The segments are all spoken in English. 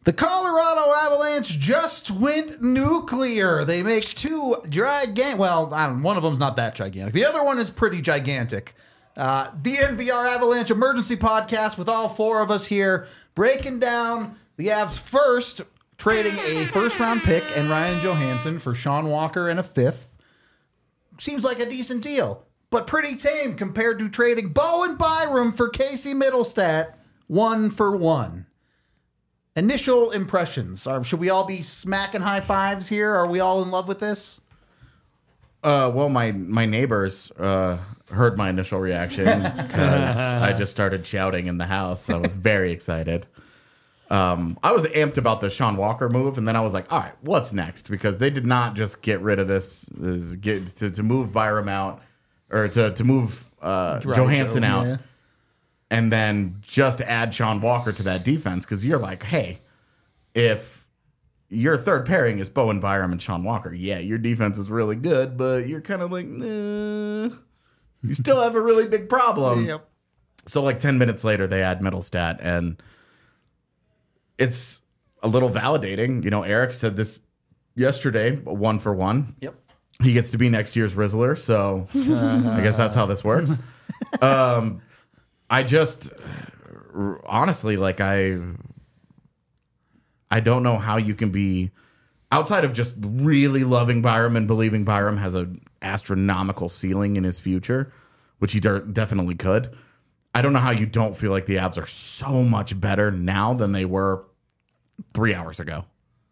The Colorado Avalanche just went nuclear. They make two gigantic. Well, one of them's not that gigantic. The other one is pretty gigantic. The NVR Avalanche Emergency Podcast with all four of us here, breaking down the Avs first, trading a first-round pick and Ryan Johansson for Sean Walker and a fifth. Seems like a decent deal, but pretty tame compared to trading Bowen Byram for Casey Middlestat 1-for-1. Initial impressions. Should we all be smacking high fives here? Are we all in love with this? Well, my neighbors heard my initial reaction because I just started shouting in the house. I was very excited. I was amped about the Sean Walker move, and then I was like, all right, what's next? Because they did not just get rid of this, to move Byram out, or to move Johansson out. Yeah. And then just add Sean Walker to that defense, because you're like, hey, if your third pairing is Bowen Byram and Sean Walker, yeah, your defense is really good, but you're kind of like, nah, you still have a really big problem. Yep. So like 10 minutes later, they add Middlestat, and it's a little validating. You know, Eric said this yesterday, 1-for-1. Yep. He gets to be next year's Rizzler, so I guess that's how this works. I just, honestly, like, I don't know how you can be, outside of just really loving Byram and believing Byram has an astronomical ceiling in his future, which he definitely could. I don't know how you don't feel like the Avs are so much better now than they were 3 hours ago.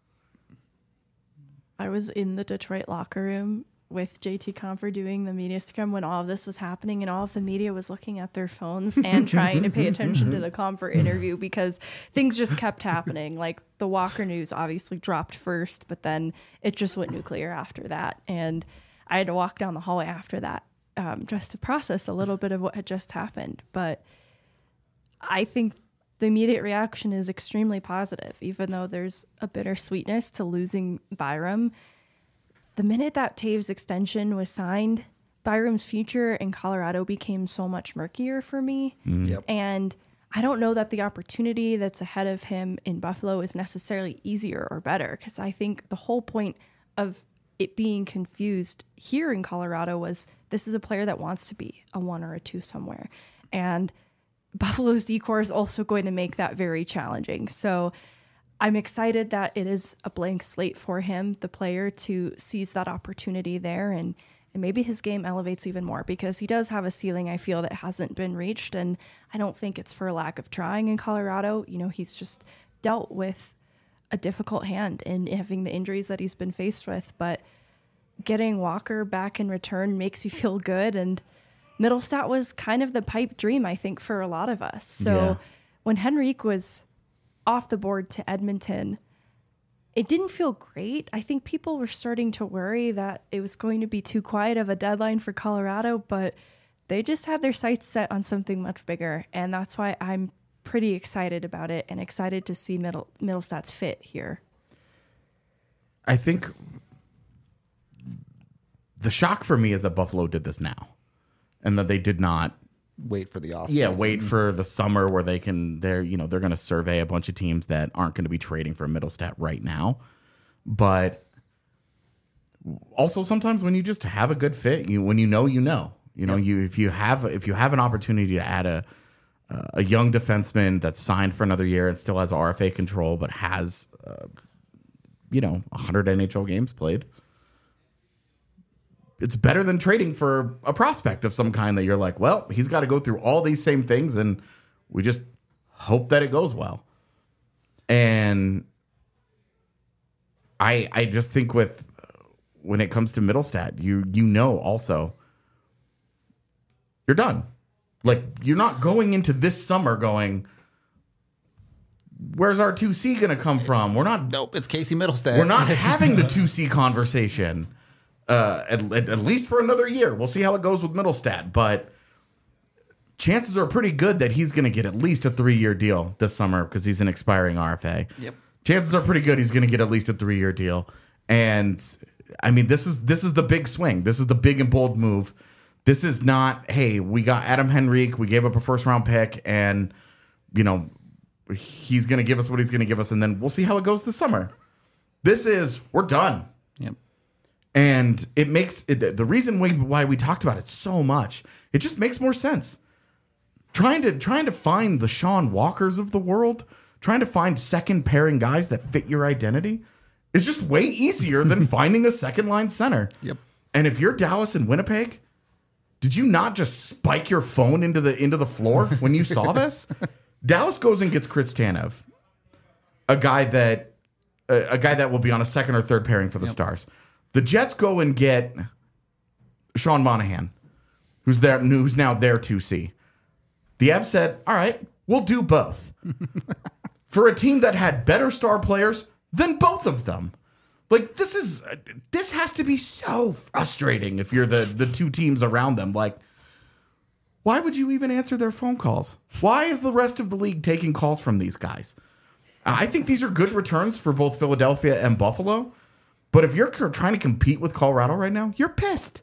I was in the Detroit locker room with JT Compher doing the media scrum when all of this was happening, and all of the media was looking at their phones and trying to pay attention to the Compher interview because things just kept happening. Like, the Walker news obviously dropped first, but then it just went nuclear after that. And I had to walk down the hallway after that just to process a little bit of what had just happened. But I think the immediate reaction is extremely positive, even though there's a bittersweetness to losing Byram. The minute that Taves extension was signed, Byram's future in Colorado became so much murkier for me. Yep. And I don't know that the opportunity that's ahead of him in Buffalo is necessarily easier or better, because I think the whole point of it being confused here in Colorado was this is a player that wants to be a 1 or a 2 somewhere. And Buffalo's decor is also going to make that very challenging. So I'm excited that it is a blank slate for him, the player, to seize that opportunity there, and maybe his game elevates even more, because he does have a ceiling, I feel, that hasn't been reached, and I don't think it's for a lack of trying in Colorado. You know, he's just dealt with a difficult hand in having the injuries that he's been faced with, but getting Walker back in return makes you feel good, and Middlestat was kind of the pipe dream, I think, for a lot of us. So when Henrique was off the board to Edmonton, it didn't feel great. I think people were starting to worry that it was going to be too quiet of a deadline for Colorado, but they just had their sights set on something much bigger, and that's why I'm pretty excited about it and excited to see Middlestat's fit here. I think the shock for me is that Buffalo did this now, and that they did not wait for the off. Yeah, wait for the summer where they're going to survey a bunch of teams that aren't going to be trading for Middlestat right now. But also sometimes when you just have a good fit, if you have an opportunity to add a young defenseman that's signed for another year and still has RFA control, but has 100 NHL games played, it's better than trading for a prospect of some kind that you're like, well, he's got to go through all these same things, and we just hope that it goes well. And I just think when it comes to Middlestat, also you're done. Like, you're not going into this summer going, where's our 2C going to come from? Nope, it's Casey Middlestat. We're not having the 2C conversation. At least for another year. We'll see how it goes with Middlestat, but chances are pretty good that he's going to get at least a 3-year deal this summer because he's an expiring RFA. Yep. Chances are pretty good he's going to get at least a 3-year deal. And I mean, this is the big swing. This is the big and bold move. This is not, hey, we got Adam Henrique, we gave up a first round pick, and he's going to give us what he's going to give us, and then we'll see how it goes this summer. We're done. Yep. And it makes the reason why we talked about it so much, it just makes more sense. Trying to find the Sean Walkers of the world, trying to find second pairing guys that fit your identity is just way easier than finding a second line center. Yep. And if you're Dallas and Winnipeg, did you not just spike your phone into the floor when you saw this? Dallas goes and gets Chris Tanev, a guy that will be on a second or third pairing for the Stars. The Jets go and get Sean Monahan, who's now their 2C. The Avs said, all right, we'll do both. For a team that had better star players than both of them. Like, this has to be so frustrating if you're the two teams around them. Like, why would you even answer their phone calls? Why is the rest of the league taking calls from these guys? I think these are good returns for both Philadelphia and Buffalo. But if you're trying to compete with Colorado right now, you're pissed.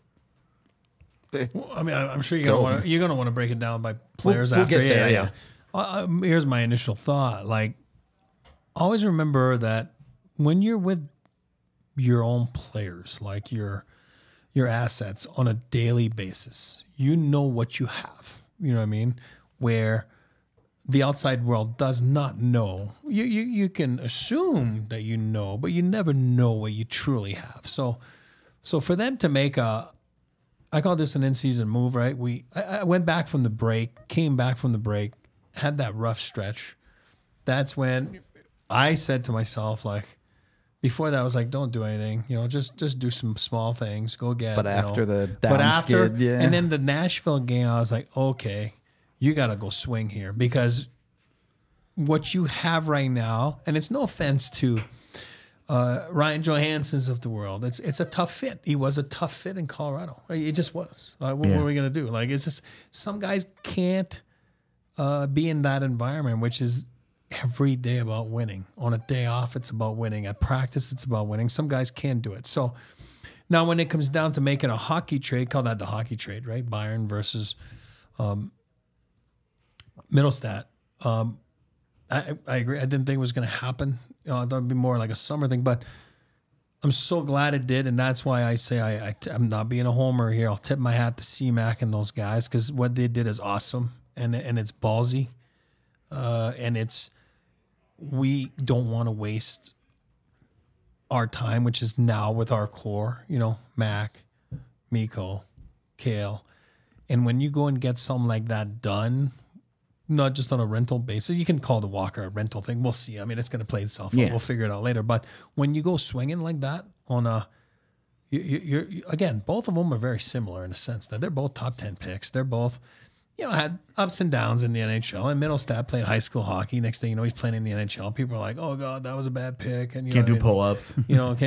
Well, I mean, I'm sure you're gonna want to break it down by players We'll after. get there, Yeah. Here's my initial thought. Like, always remember that when you're with your own players, like your assets on a daily basis, you know what you have. You know what I mean? Where the outside world does not know. You can assume that you know, but you never know what you truly have. So for them to make I call this an in-season move, right? I went back from the break, came back from the break, had that rough stretch. That's when I said to myself, like, before that, I was like, don't do anything. You know, just do some small things. Go get. But after the down but after, skid, yeah. And then the Nashville game, I was like, okay, you got to go swing here, because what you have right now, and it's no offense to Ryan Johansson's of the world. It's a tough fit. He was a tough fit in Colorado. It just was. What are we going to do? Like, it's just some guys can't be in that environment, which is every day about winning. On a day off, it's about winning. At practice, it's about winning. Some guys can do it. So now when it comes down to making a hockey trade, call that the hockey trade, right? Bayern versus Middlestat. I agree. I didn't think it was going to happen. I thought it'd be more like a summer thing, but I'm so glad it did, and that's why I say I'm not being a homer here. I'll tip my hat to C-Mac and those guys, because what they did is awesome, and it's ballsy, and we don't want to waste our time, which is now with our core, Mac, Mikko, Kale, and when you go and get something like that done, not just on a rental basis. You can call the Walker a rental thing. We'll see. I mean, it's going to play itself out. We'll figure it out later. But when you go swinging like that on you're again, both of them are very similar in a sense that they're both top 10 picks. They're both, had ups and downs in the NHL. And Middlestat played high school hockey. Next thing you know, he's playing in the NHL. People are like, "Oh God, that was a bad pick." And can't do pull-ups. You know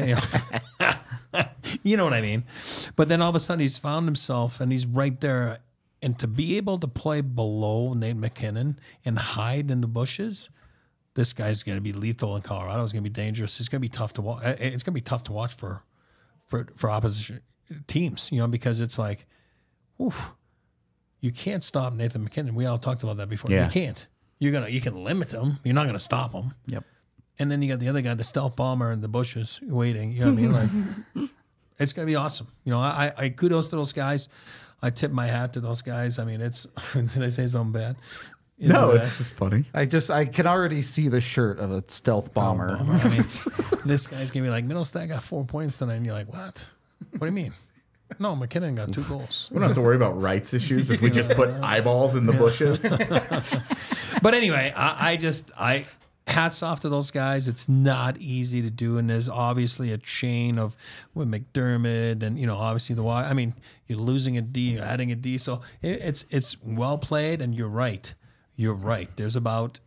what I mean? But then all of a sudden, he's found himself, and he's right there. And to be able to play below Nate McKinnon and hide in the bushes, this guy's going to be lethal in Colorado. It's going to be dangerous. It's going to be tough to watch. It's going to be tough to watch for opposition teams, because it's like, oof, you can't stop Nathan McKinnon. We all talked about that before. Yeah. You can't. You can limit him. You're not going to stop him. Yep. And then you got the other guy, the stealth bomber in the bushes waiting. You know what I mean? Like, it's going to be awesome. I kudos to those guys. I tip my hat to those guys. I mean, it's. Did I say something bad? No, it's just funny. I can already see the shirt of a stealth bomber. I mean, this guy's gonna be like, Middlestat got 4 points tonight, and you're like, what? What do you mean? No, McKinnon got 2 goals. We don't have to worry about rights issues if we just put eyeballs in the bushes. But anyway, I hats off to those guys. It's not easy to do, and there's obviously a chain with McDermott, and obviously I mean, you're losing a D, you're adding a D, so it's well played. And you're right. There's about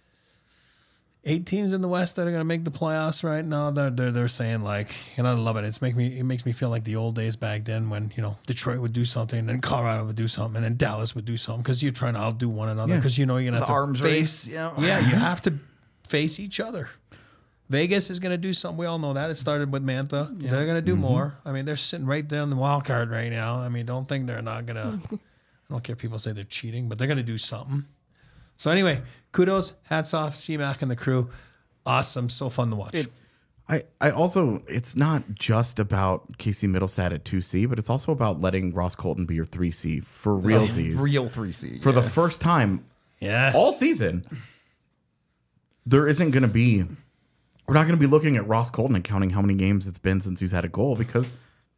8 teams in the West that are going to make the playoffs right now. They're saying, like, and I love it. It makes me feel like the old days back then when Detroit would do something, and Colorado would do something, and then Dallas would do something, because you're trying to outdo one another, because you're going to have to arms face. race. Yeah, you have to face each other. Vegas is going to do something. We all know that. It started with Mantha. Yeah. They're going to do more. I mean, they're sitting right there in the wild card right now. I mean, don't think they're not going to. I don't care if people say they're cheating, but they're going to do something. So anyway, kudos, hats off, C-Mac and the crew. Awesome, so fun to watch. I also, it's not just about Casey Middlestat at 2C, but it's also about letting Ross Colton be your 3C for realsies. Real 3C. For the first time Yes. all season, there isn't going to be, we're not going to be looking at Ross Colton and counting how many games it's been since he's had a goal, because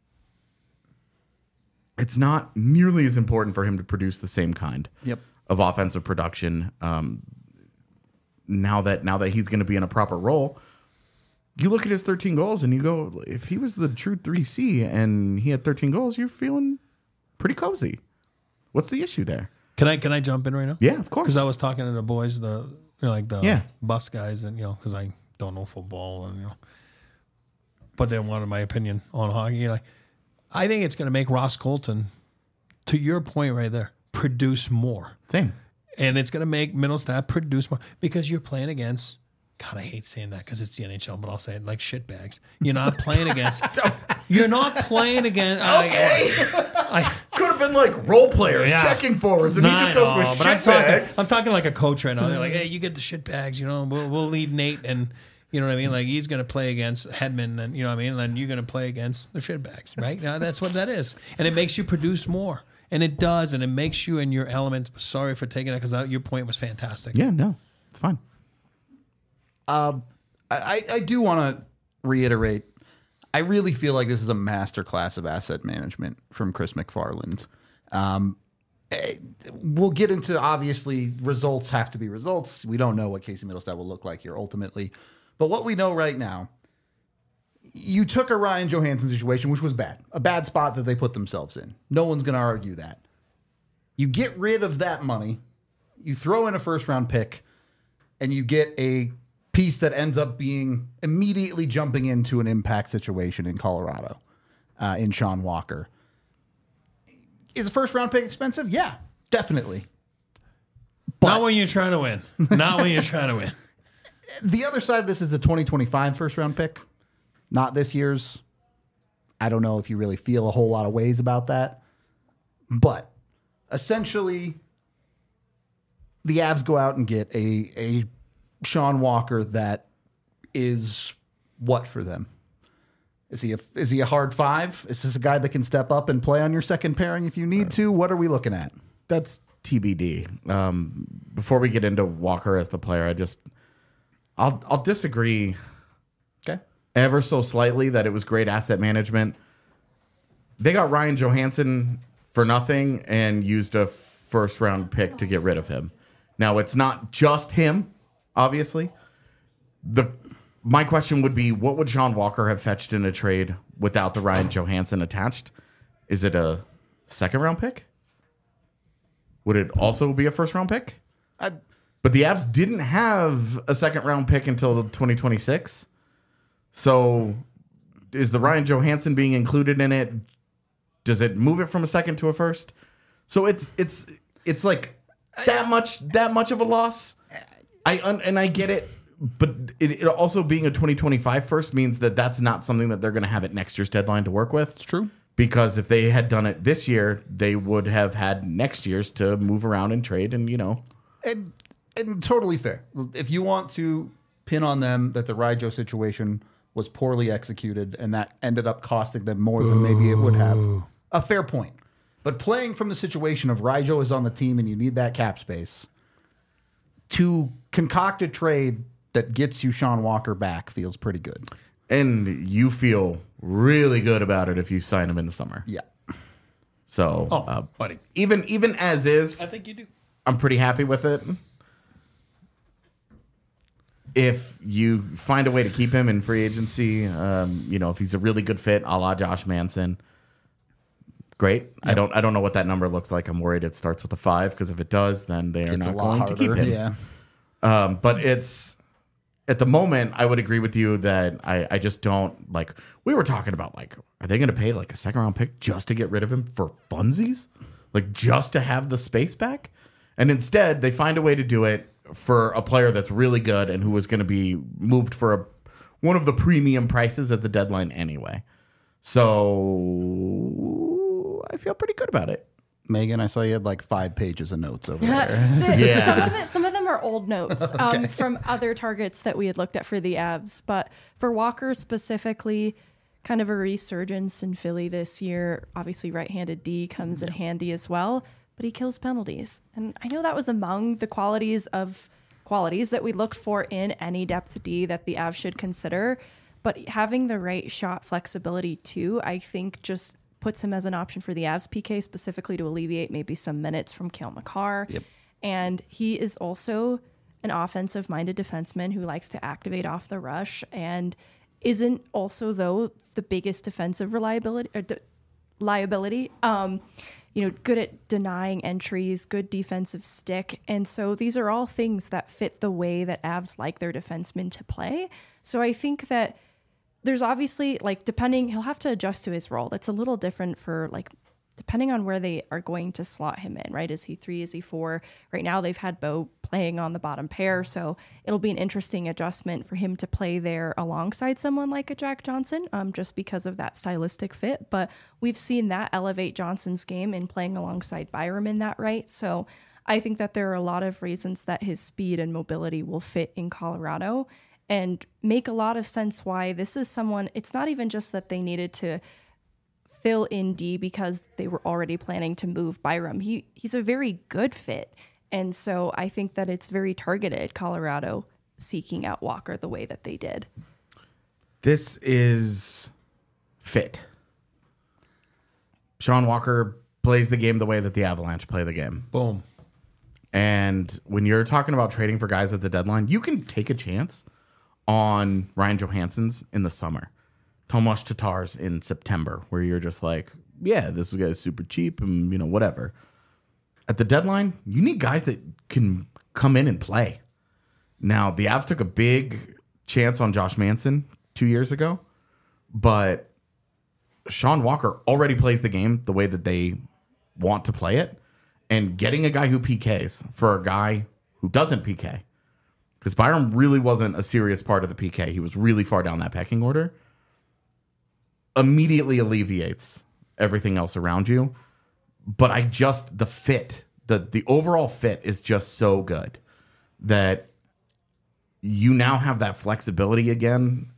it's not nearly as important for him to produce the same kind of offensive production. Now that he's going to be in a proper role, you look at his 13 goals and you go, if he was the true 3C and he had 13 goals, you're feeling pretty What's the issue there? Can I jump in right now? Yeah, of course. Because I was talking to the boys, the Yeah. Buffs guys, and because I don't know football, and but they wanted my opinion on hockey. I think it's going to make Ross Colton, to your point right there, produce more, Same. and it's going to make Middlestat produce more because you're playing against. God, I hate saying that because it's the NHL, but I'll say it like shitbags. You're not playing against. You're not playing against. Could have been like role players Yeah. checking forwards, and he just goes with but shitbags. I'm talking like a coach right now. They're like, hey, you get the shitbags, we'll leave Nate, and you know what I mean? Like, he's going to play against Hedman, and you know what I mean? And then you're going to play against the shitbags, right? Now, that's what that is. And it makes you produce more. And it does, and it makes you in your element. Sorry for taking that, because your point was fantastic. Yeah, no, it's fine. I do want to reiterate, I really feel like this is a masterclass of asset management from Chris McFarland. We'll get into, obviously, results have to be results. We don't know what Casey Middlestat will look like here ultimately. But what we know right now, you took a Ryan Johansson situation, which was bad. A bad spot that they put themselves in. No one's going to argue that. You get rid of that money, you throw in a first-round pick, and you get a piece that ends up being immediately jumping into an impact situation in Colorado, in Sean Walker. Is a first-round pick expensive? Yeah, definitely. Not when you're trying to win. Not when you're trying to win. The other side of this is the 2025 first-round pick, not this year's. I don't know if you really feel a whole lot of ways about that. But essentially, the Avs go out and get a Sean Walker that is what for them? Is he a hard five? Is this a guy that can step up and play on your second pairing if you need to? What are we looking at? That's TBD. Before we get into Walker as the player, I'll disagree. Okay. Ever so slightly that it was great asset management. They got Ryan Johansson for nothing and used a first round pick to get rid of him. Now, it's not just him, obviously. My question would be, what would Sean Walker have fetched in a trade without the Ryan Johansson attached? Is it a second round pick? Would it also be a first round pick? But the Avs didn't have a second round pick until 2026. So is the Ryan Johansson being included in it? Does it move it from a second to a first? So it's like that much of a loss. I get it, but it also being a 2025 first means that that's not something that they're going to have at next year's deadline to work with. It's true. Because if they had done it this year, they would have had next year's to move around and trade, and And totally fair. If you want to pin on them that the Ryjo situation was poorly executed and that ended up costing them more than maybe it would have, a fair point. But playing from the situation of Ryjo is on the team and you need that cap space, to concoct a trade that gets you Sean Walker back feels pretty good. And you feel really good about it if you sign him in the summer. Yeah. So, buddy. even as is, I think you do. I'm pretty happy with it. If you find a way to keep him in free agency, if he's a really good fit, a la Josh Manson, great. Yep. I don't know what that number looks like. I'm worried it starts with a 5, because if it does, then they are not going to keep him. Yeah. But it's at the moment, I would agree with you that I just don't like. We were talking about are they going to pay like a second round pick just to get rid of him for funsies, like just to have the space back? And instead, they find a way to do it for a player that's really good and who was going to be moved for one of the premium prices at the deadline anyway. So I feel pretty good about it. Megan, I saw you had like 5 pages of notes over there. Yeah. Some of them our old notes from other targets that we had looked at for the Avs. But for Walker specifically, kind of a resurgence in Philly this year. Obviously, right-handed D comes in handy as well, but he kills penalties. And I know that was among the qualities that we looked for in any depth D that the Avs should consider. But having the right shot flexibility too, I think just puts him as an option for the Avs PK, specifically to alleviate maybe some minutes from Cale Makar. Yep. And he is also an offensive-minded defenseman who likes to activate off the rush and isn't also, though, the biggest defensive liability. Good at denying entries, good defensive stick. And so these are all things that fit the way that Avs like their defensemen to play. So I think that there's obviously, he'll have to adjust to his role. That's a little different for, depending on where they are going to slot him in, right? Is he 3? Is he 4? Right now they've had Bo playing on the bottom pair, so it'll be an interesting adjustment for him to play there alongside someone like a Jack Johnson, just because of that stylistic fit. But we've seen that elevate Johnson's game in playing alongside Byram in that right. So I think that there are a lot of reasons that his speed and mobility will fit in Colorado and make a lot of sense why this is someone. It's not even just that they needed to fill in D because they were already planning to move Byram. He's a very good fit. And so I think that it's very targeted, Colorado seeking out Walker the way that they did. This is fit. Sean Walker plays the game the way that the Avalanche play the game. Boom. And when you're talking about trading for guys at the deadline, you can take a chance on Ryan Johansson's in the summer, Tomas Tatar's in September, where you're just like, yeah, this guy's super cheap and, whatever. At the deadline, you need guys that can come in and play. Now, the Avs took a big chance on Josh Manson 2 years ago, but Sean Walker already plays the game the way that they want to play it. And getting a guy who PKs for a guy who doesn't PK, because Byram really wasn't a serious part of the PK. He was really far down that pecking order. Immediately alleviates everything else around you. But the fit, the overall fit is just so good that you now have that flexibility again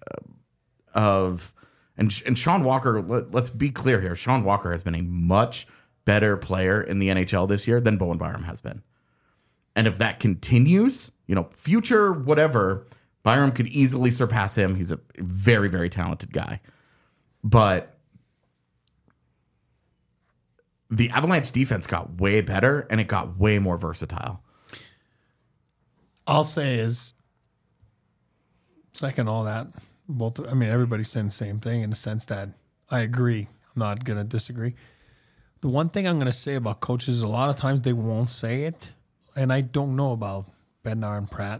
and Sean Walker, let's be clear here. Sean Walker has been a much better player in the NHL this year than Bowen Byram has been. And if that continues, future whatever, Byram could easily surpass him. He's a very, very talented guy. But the Avalanche defense got way better and it got way more versatile. I'll say is, second all that, everybody's saying the same thing in the sense that I agree. I'm not going to disagree. The one thing I'm going to say about coaches, a lot of times they won't say it, and I don't know about Bednar and Pratt.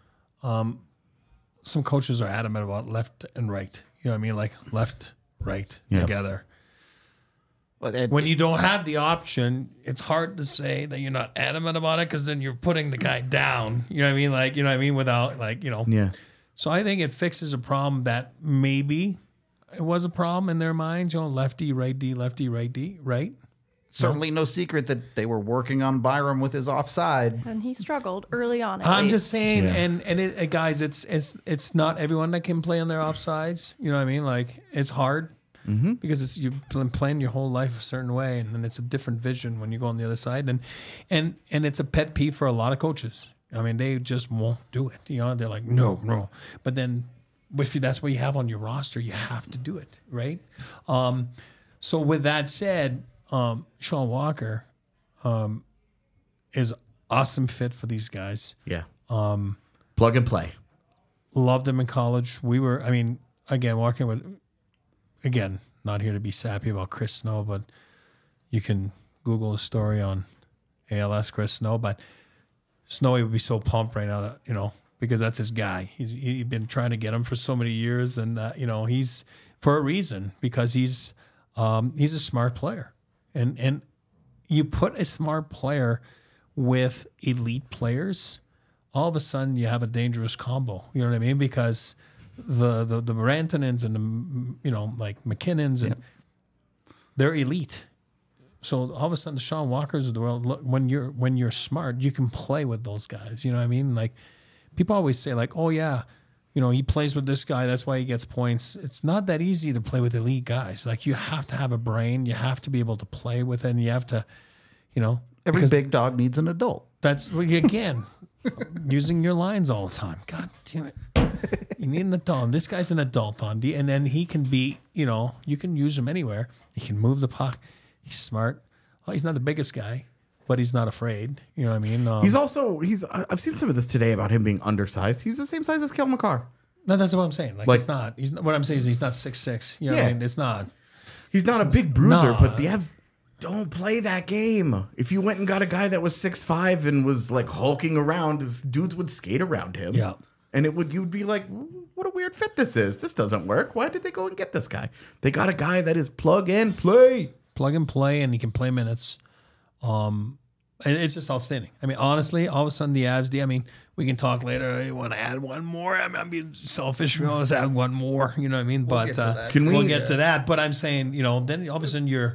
Some coaches are adamant about left and right. You know what I mean? Like left, right, together. When you don't have the option, it's hard to say that you're not adamant about it because then you're putting the guy down. You know what I mean? Without Yeah. So I think it fixes a problem that maybe it was a problem in their minds. Lefty, right D, lefty, right D, right? Certainly no secret that they were working on Byram with his offside. And he struggled early on. I'm just saying, and guys, it's not everyone that can play on their offsides. You know what I mean? It's hard because you've been playing your whole life a certain way, and then it's a different vision when you go on the other side. And it's a pet peeve for a lot of coaches. They just won't do it. They're like, no. But then, if that's what you have on your roster, you have to do it, right? So with that said, Sean Walker is awesome fit for these guys. Yeah. Plug and play. Loved him in college. We were, again, walking with, not here to be sappy about Chris Snow, but you can Google a story on ALS Chris Snow. But Snowy would be so pumped right now that, because that's his guy. He's been trying to get him for so many years, and he's for a reason, because he's a smart player. And you put a smart player with elite players, all of a sudden you have a dangerous combo. You know what I mean? Because the Rantanens and the like McKinnons and they're elite. So all of a sudden, the Sean Walkers of the world, look, when you're smart, you can play with those guys. You know what I mean? Like people always say, like, oh yeah, he plays with this guy, that's why he gets points. It's not that easy to play with elite guys. Like you have to have a brain, you have to be able to play with it, and you have to, Every big dog needs an adult. That's again using your lines all the time. God damn it. You need an adult. This guy's an adult on D, and then he can be, you can use him anywhere. He can move the puck. He's smart. Well, he's not the biggest guy, but he's not afraid. You know what I mean? I've seen some of this today about him being undersized. He's the same size as Cale Makar. No, that's what I'm saying. Like he's not. What I'm saying is he's not 6'6". You know what I mean? It's not. He's not a big bruiser, but the Avs don't play that game. If you went and got a guy that was 6'5" and was like hulking around, dudes would skate around him. Yeah. And you'd be like, what a weird fit this is. This doesn't work. Why did they go and get this guy? They got a guy that is plug and play. Plug and play, and he can play minutes. And it's just outstanding. I mean, honestly, all of a sudden the Avs, we can talk later. You want to add one more? I'm being selfish. We always add one more. You know what I mean? But we'll get to that. But I'm saying, then all of a sudden you're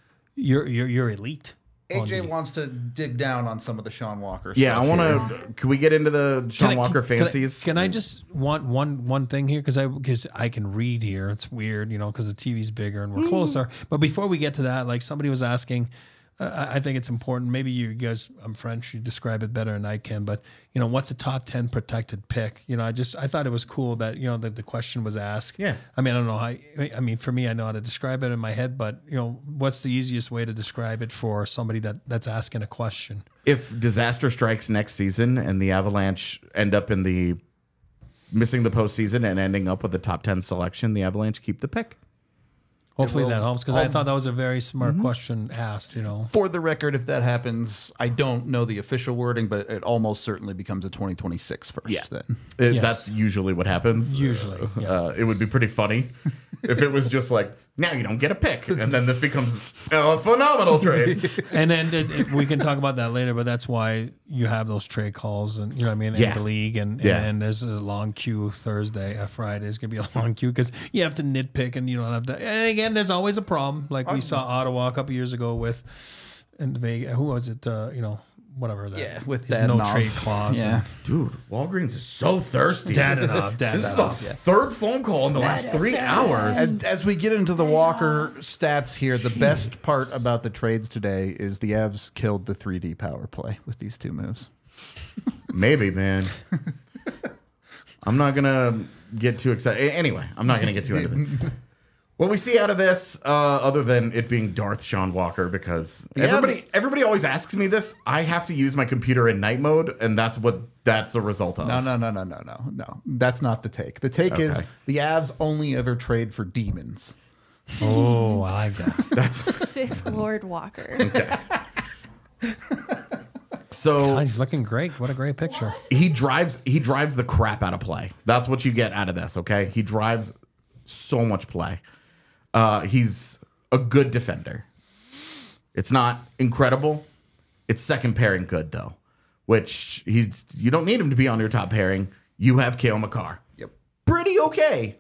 elite. AJ wants to dig down on some of the Sean Walker Yeah, stuff. I want to. Can we get into the Sean Walker fancies? Can I just want one thing here because I can read here. It's weird, because the TV's bigger and we're closer. But before we get to that, like somebody was asking, I think it's important. Maybe you guys, I'm French, you describe it better than I can. But what's a top 10 protected pick? I thought it was cool that that the question was asked. Yeah. I mean, I don't know how. For me, I know how to describe it in my head. But what's the easiest way to describe it for somebody that's asking a question? If disaster strikes next season and the Avalanche end up missing the postseason and ending up with a top 10 selection, the Avalanche keep the pick. Hopefully that helps because I thought that was a very smart question asked. For the record, if that happens, I don't know the official wording, but it almost certainly becomes a 2026 first. Yeah. Then. Yes. That's usually what happens. Usually, yeah. It would be pretty funny if it was just like, now you don't get a pick. And then this becomes a phenomenal trade. And then we can talk about that later, but that's why you have those trade calls and, in the league. And there's a long queue Thursday. Friday is going to be a long queue because you have to nitpick and you don't have to. And again, there's always a problem. Like we saw Ottawa a couple years ago with, and Vegas, who was it? Whatever that. Yeah, with there's no Dadonov. trade clause. Yeah. Dude, Walgreens is so thirsty. Dadonov. This is the third phone call in the last 3 hours. As we get into the Walker stats here, the best part about the trades today is the Avs killed the 3D power play with these two moves. Maybe, man. I'm not going to get too excited. Anyway, I'm not going to get too into it. What we see out of this, other than it being Darth Sean Walker, because everybody always asks me this, I have to use my computer in night mode, and that's a result of. No. That's not the take. The take is the Avs only ever trade for demons. Oh, I like that. That's Sith Lord Walker. okay. So God, he's looking great. What a great picture. He drives the crap out of play. That's what you get out of this, okay? He drives so much play. He's a good defender. It's not incredible. It's second pairing good though, which you don't need him to be on your top pairing. You have Cale Makar. Yep. Pretty okay.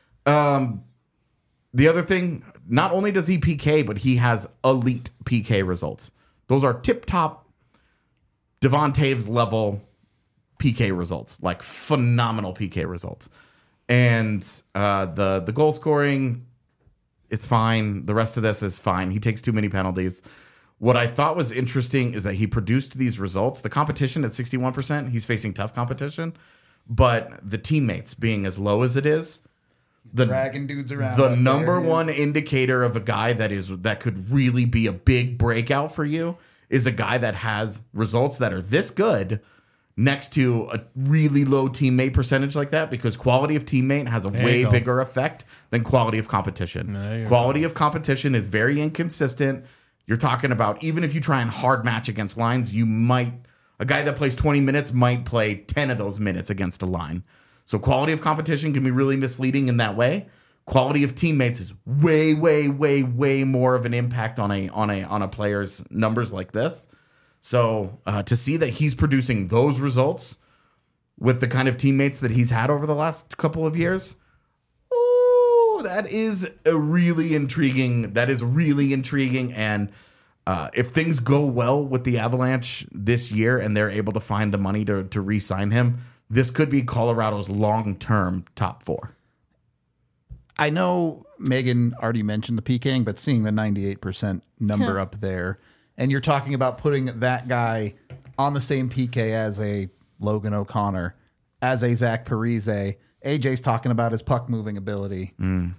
The other thing, not only does he PK, but he has elite PK results. Those are tip top Devon Taves level PK results, like phenomenal PK results. And the goal scoring, it's fine. The rest of this is fine. He takes too many penalties. What I thought was interesting is that he produced these results. The competition at 61%, he's facing tough competition, but the teammates being as low as it is, Dragging dudes around. the number one indicator of a guy that could really be a big breakout for you is a guy that has results that are this good next to a really low teammate percentage like that, because quality of teammate has a way bigger effect than quality of competition. Quality of competition is very inconsistent. You're talking about, even if you try and hard match against lines, a guy that plays 20 minutes might play 10 of those minutes against a line. So quality of competition can be really misleading in that way. Quality of teammates is way, way, way, way more of an impact on a player's numbers like this. So to see that he's producing those results with the kind of teammates that he's had over the last couple of years, that is really intriguing. And if things go well with the Avalanche this year and they're able to find the money to re-sign him, this could be Colorado's long-term top 4. I know Megan already mentioned the PKing, but seeing the 98% number up there, and you're talking about putting that guy on the same PK as a Logan O'Connor, as a Zach Parise. AJ's talking about his puck moving ability. The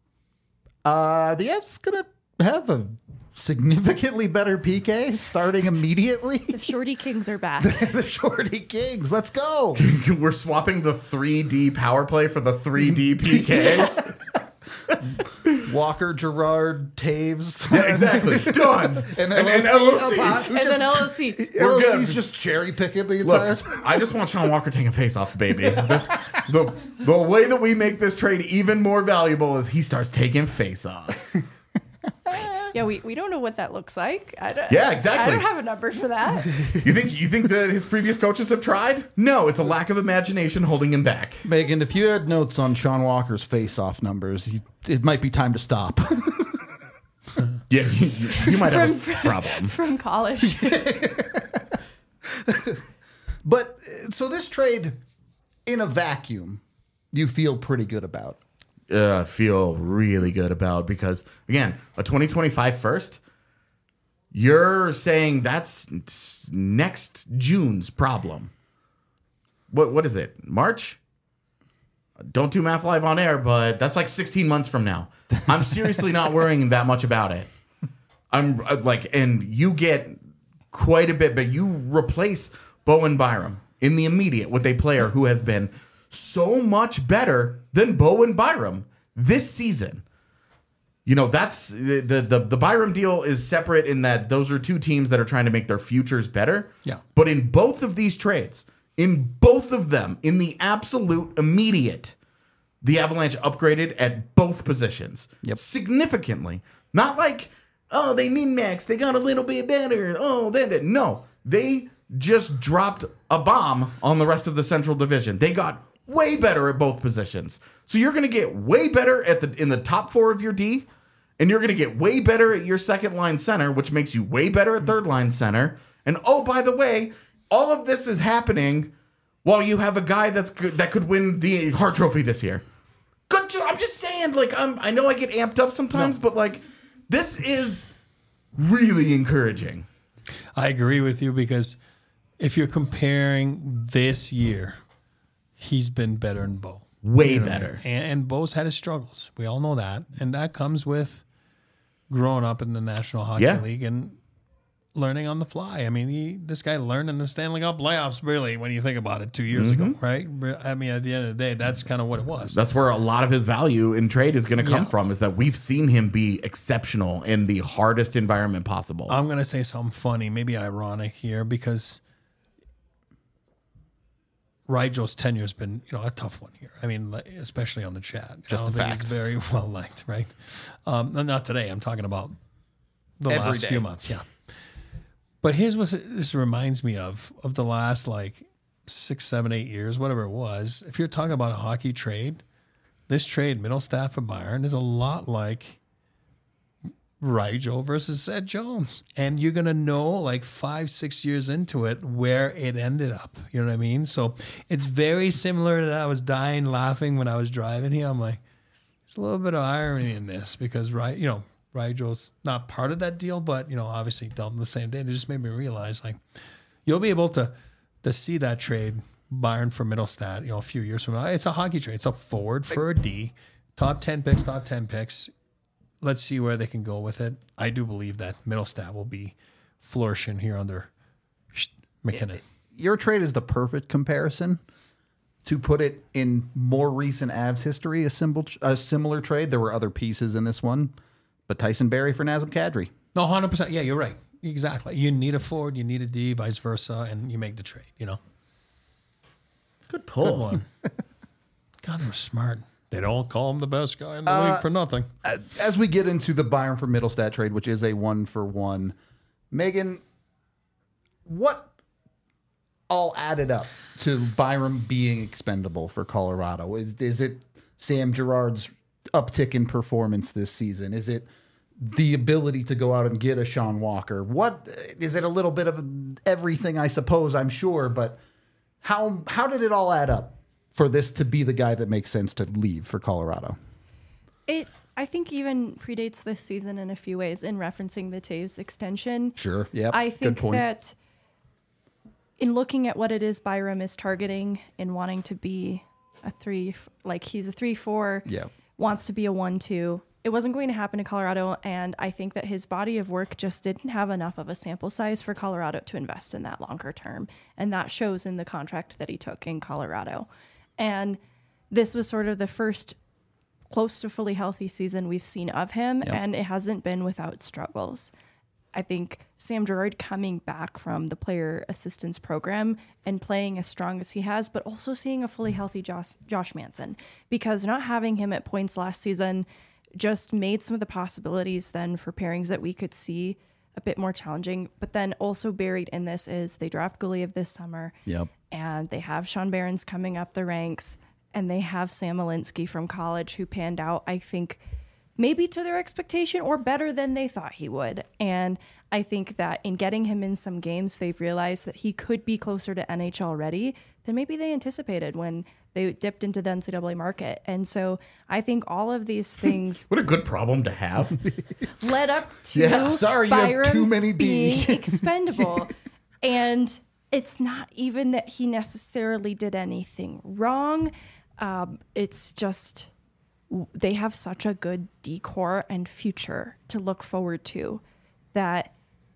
F's going to have a significantly better PK starting immediately. The Shorty Kings are back. The Shorty Kings. Let's go. We're swapping the 3D power play for the 3D PK. Walker, Gerard, Taves. Yeah, exactly. Done. And LOC. And then LOC. LOC's just cherry picking the entire Look, I just want Sean Walker taking face-offs, baby. The way that we make this trade even more valuable is he starts taking face-offs. Yeah, we don't know what that looks like. Yeah, exactly. I don't have a number for that. You think that his previous coaches have tried? No, it's a lack of imagination holding him back. Megan, if you had notes on Sean Walker's face-off numbers, it might be time to stop. Yeah, you might have a problem. From college. But so this trade, in a vacuum, you feel pretty good about. Feel really good about, because again, a 2025 first, you're saying that's next June's problem. What is it? March? Don't do math live on air, but that's like 16 months from now. I'm seriously not worrying that much about it. I'm like, and you get quite a bit, but you replace Bowen Byram in the immediate with a player who has been so much better than Bowen Byram this season. You know, that's the Byram deal is separate in that those are two teams that are trying to make their futures better. Yeah. But in both of these trades, in both of them, in the absolute immediate, the Avalanche upgraded at both positions. Yep. Significantly. Not like, oh, they min-maxed, they got a little bit better. Oh, no. They just dropped a bomb on the rest of the Central Division. They got way better at both positions. So you're going to get way better in the top 4 of your D, and you're going to get way better at your second line center, which makes you way better at third line center. And oh, by the way, all of this is happening while you have a guy that could win the Hart Trophy this year. Good job. I'm just saying, like, I know I get amped up sometimes, but like, this is really encouraging. I agree with you, because if you're comparing this year, he's been better than Bo. Way better. And Bo's had his struggles. We all know that. And that comes with growing up in the National Hockey League and learning on the fly. I mean, this guy learned in the Stanley Cup playoffs, really, when you think about it, 2 years ago, right? I mean, at the end of the day, that's kind of what it was. That's where a lot of his value in trade is going to come from, is that we've seen him be exceptional in the hardest environment possible. I'm going to say something funny, maybe ironic here, because Rigel's tenure has been, a tough one here. I mean, especially on the chat. Just I don't a think fact. he's very well liked, right? Not today. I'm talking about the Every last day. few months. Yeah. But here's what this reminds me of the last like 6, 7, 8 years, whatever it was. If you're talking about a hockey trade, this trade, Middlestat and Byron, is a lot like Rigel versus Seth Jones. And you're going to know like 5, 6 years into it where it ended up. You know what I mean? So it's very similar to that. I was dying laughing when I was driving here. I'm like, there's a little bit of irony in this, because, Rigel's not part of that deal, but, obviously dealt in the same day. And it just made me realize, like, you'll be able to see that trade, Byron for Middlestat, a few years from now. It's a hockey trade. It's a forward for a D. Top 10 picks. Let's see where they can go with it. I do believe that Middlestat will be flourishing here under McKinnon. Your trade is the perfect comparison to put it in more recent Avs history. A similar trade. There were other pieces in this one, but Tyson Barrie for Nazem Kadri. No, 100%. Yeah, you're right. Exactly. You need a forward, you need a D, vice versa, and you make the trade, Good pull. Good one. God, they were smart. They don't call him the best guy in the league for nothing. As we get into the Byron for Middlestat trade, which is a 1-for-1, Megan, what all added up to Byron being expendable for Colorado? Is it Sam Girard's uptick in performance this season? Is it the ability to go out and get a Sean Walker. What is it? A little bit of everything, I suppose, I'm sure, but how did it all add up for this to be the guy that makes sense to leave for Colorado? I think even predates this season in a few ways in referencing the Taves extension. Sure. Yeah. I think that in looking at what it is Byram is targeting and wanting to be a 3, like he's a 3-4, Yeah. wants to be a 1-2. It wasn't going to happen in Colorado, and I think that his body of work just didn't have enough of a sample size for Colorado to invest in that longer term, and that shows in the contract that he took in Colorado. And this was sort of the first close to fully healthy season we've seen of him, and it hasn't been without struggles. I think Sam Girard coming back from the player assistance program and playing as strong as he has, but also seeing a fully healthy Josh Manson, because not having him at points last season just made some of the possibilities then for pairings that we could see a bit more challenging. But then also buried in this is they draft Guliev this summer, and they have Sean Behrens coming up the ranks, and they have Sam Alinsky from college who panned out, I think, maybe to their expectation or better than they thought he would. And I think that in getting him in some games, they've realized that he could be closer to NHL ready than maybe they anticipated when they dipped into the NCAA market. And so I think all of these things What a good problem to have. led up to sorry, you Byram have too many being B. expendable. And it's not even that he necessarily did anything wrong. It's just they have such a good decor and future to look forward to that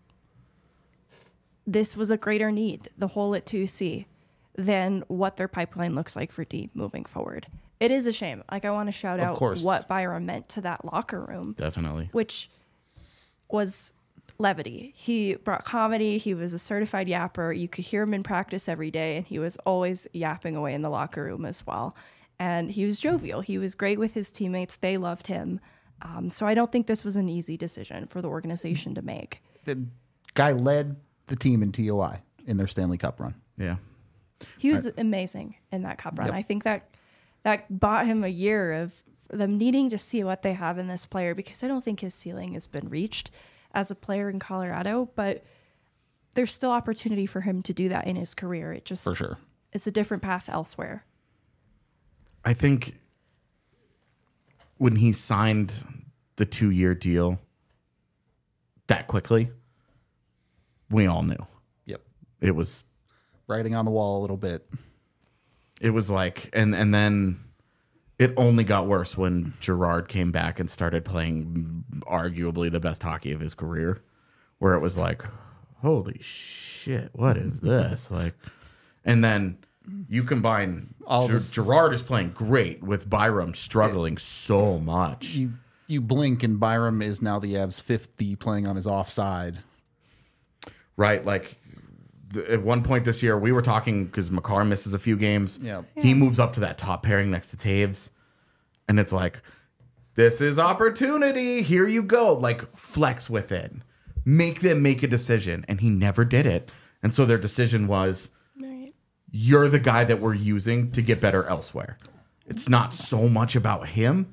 this was a greater need, the hole at 2C, than what their pipeline looks like for D moving forward. It is a shame. Like, I want to shout out what Byram meant to that locker room. Definitely. Which was levity. He brought comedy. He was a certified yapper. You could hear him in practice every day, and he was always yapping away in the locker room as well. And he was jovial. He was great with his teammates. They loved him. So I don't think this was an easy decision for the organization to make. The guy led the team in TOI in their Stanley Cup run. Yeah. He was amazing in that cup run. I think that bought him a year of them needing to see what they have in this player, because I don't think his ceiling has been reached as a player in Colorado, but there's still opportunity for him to do that in his career. It just, For sure. It's a different path elsewhere. I think when he signed the 2-year deal that quickly, we all knew. Yep. It was Writing on the wall a little bit. It was like, and then it only got worse when Girard came back and started playing arguably the best hockey of his career, where it was like, holy shit, what is this? Like, and then you combine Girard is playing great with Byram struggling so much. You blink and Byram is now the Avs' 5th D playing on his offside. Right, like at one point this year, we were talking because Makar misses a few games. Yeah. He moves up to that top pairing next to Taves. And it's like, this is opportunity. Here you go. Like, flex with it. Make them make a decision. And he never did it. And so their decision was, you're the guy that we're using to get better elsewhere. It's not so much about him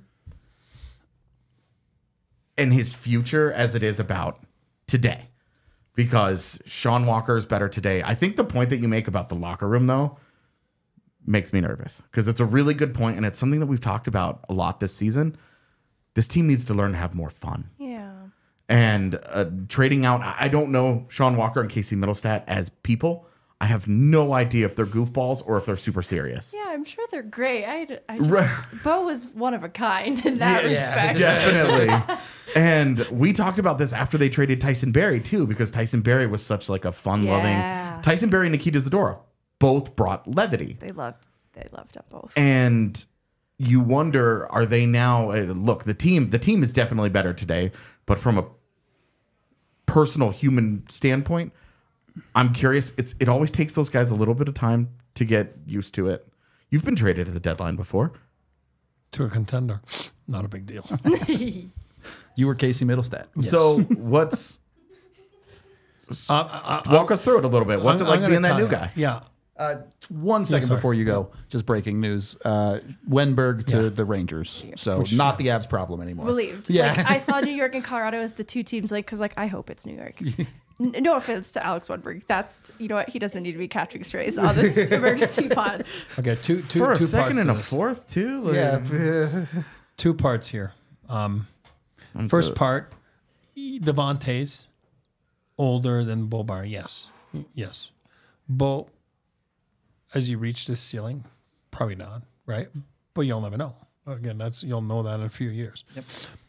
and his future as it is about today. Because Sean Walker is better today. I think the point that you make about the locker room, though, makes me nervous. Because it's a really good point, and it's something that we've talked about a lot this season. This team needs to learn to have more fun. Yeah. And trading out, I don't know Sean Walker and Casey Middlestat as people. I have no idea if they're goofballs or if they're super serious. Yeah, I'm sure they're great. Bo was one of a kind in that respect. Definitely. And we talked about this after they traded Tyson Barrie too, because Tyson Barrie was such like a fun-loving. Tyson Barrie and Nikita Zadorov both brought levity. They loved them both. And you wonder, are they now? Look, the team is definitely better today, but from a personal human standpoint, I'm curious. It always takes those guys a little bit of time to get used to it. You've been traded at the deadline before. To a contender. Not a big deal. You were Casey Middlestat. Yes. So what's walk us through it a little bit. What's it like being that new guy? Yeah. 1 second sorry. before you go, just breaking news. Wenberg to the Rangers. So not the Avs problem anymore. Relieved. Yeah. Like, I saw New York and Colorado as the two teams, like, because, like, I hope it's New York. No offense to Alex Wenberg. That's, you know what? He doesn't need to be catching strays on this emergency pod. Okay, two For a two second parts and to a this. fourth, too? Like, Yeah. 2 parts here. First part, Devontae's older than Bo Byron. Yes. Bo, as you reach this ceiling, probably not, right? But you'll never know. Again, you'll know that in a few years. Yep.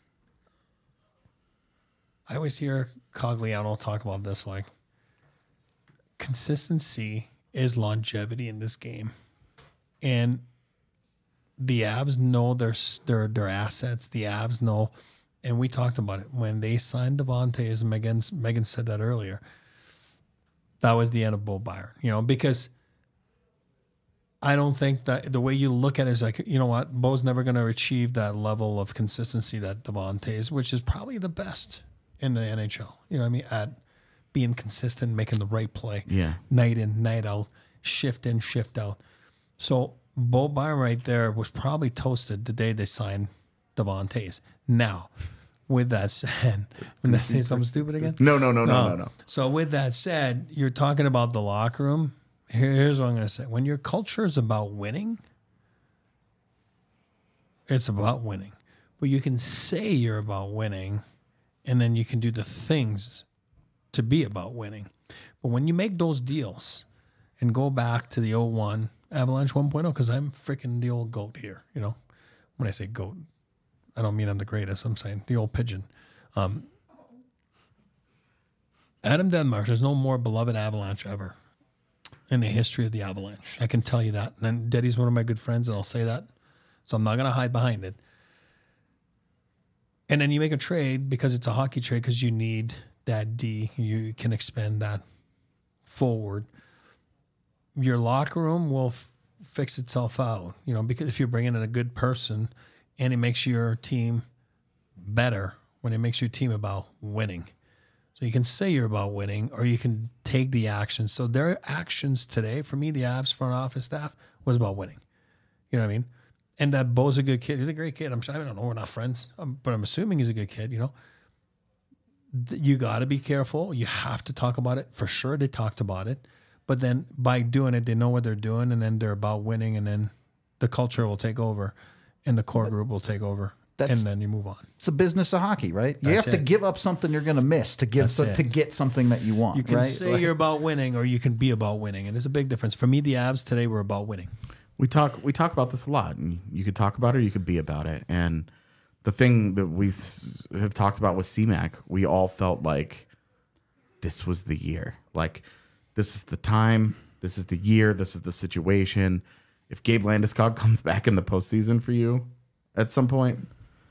I always hear Cogliano talk about this, like consistency is longevity in this game, and the Avs know their assets. The Avs know, and we talked about it when they signed Devontae. As Megan said that earlier, that was the end of Bo Byron. You know, because I don't think that the way you look at it is like, you know what, Bo's never going to achieve that level of consistency that Devontae is, which is probably the best in the NHL. You know what I mean? At being consistent, making the right play. Yeah. Night in, night out, shift in, shift out. So Bo Byron right there was probably toasted the day they signed Devontae's. Now, with that said, when I say something stupid again? No. So with that said, you're talking about the locker room. Here's what I'm going to say. When your culture is about winning, it's about winning. But you can say you're about winning, and then you can do the things to be about winning. But when you make those deals and go back to the 01 Avalanche 1.0, because I'm freaking the old goat here, you know. When I say goat, I don't mean I'm the greatest. I'm saying the old pigeon. Adam Denmark, there's no more beloved Avalanche ever in the history of the Avalanche. I can tell you that. And Deddy's one of my good friends, and I'll say that. So I'm not going to hide behind it. And then you make a trade because it's a hockey trade because you need that D. You can expend that forward. Your locker room will fix itself out, you know, because if you're bringing in a good person and it makes your team better when it makes your team about winning. So you can say you're about winning or you can take the action. So their actions today, for me, the Avs front office staff was about winning. You know what I mean? And that Bo's a good kid. He's a great kid. I don't know. We're not friends, but I'm assuming he's a good kid, you know. You got to be careful. You have to talk about it. For sure, they talked about it. But then by doing it, they know what they're doing, and then they're about winning, and then the culture will take over, and the core group will take over, and then you move on. It's a business of hockey, right? You That's have to it. give up something you're going to miss to get to get something that you want. You can right? say Like- you're about winning, or you can be about winning, and there's a big difference. For me, the Avs today were about winning. We talk about this a lot, and you could talk about it or you could be about it. And the thing that we have talked about with CMAC, we all felt like this was the year. Like, this is the time, this is the year, this is the situation. If Gabe Landeskog comes back in the postseason for you at some point,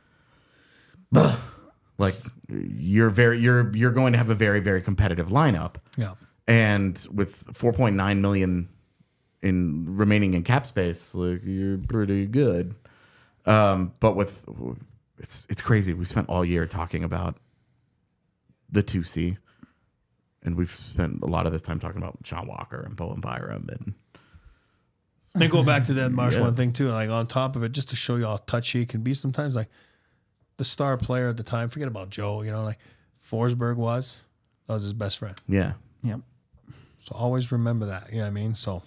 like you're going to have a very, very competitive lineup. Yeah. And with 4.9 million in remaining in cap space, like you're pretty good. But with it's crazy. We spent all year talking about the 2C, and we've spent a lot of this time talking about Sean Walker and Bowen Byram. And Then go back to that Marsh one thing too. Like on top of it, just to show you how touchy it can be sometimes. Like the star player at the time, forget about Joe. You know, like Forsberg was his best friend. yeah, Yep. So always remember that. You know what I mean? So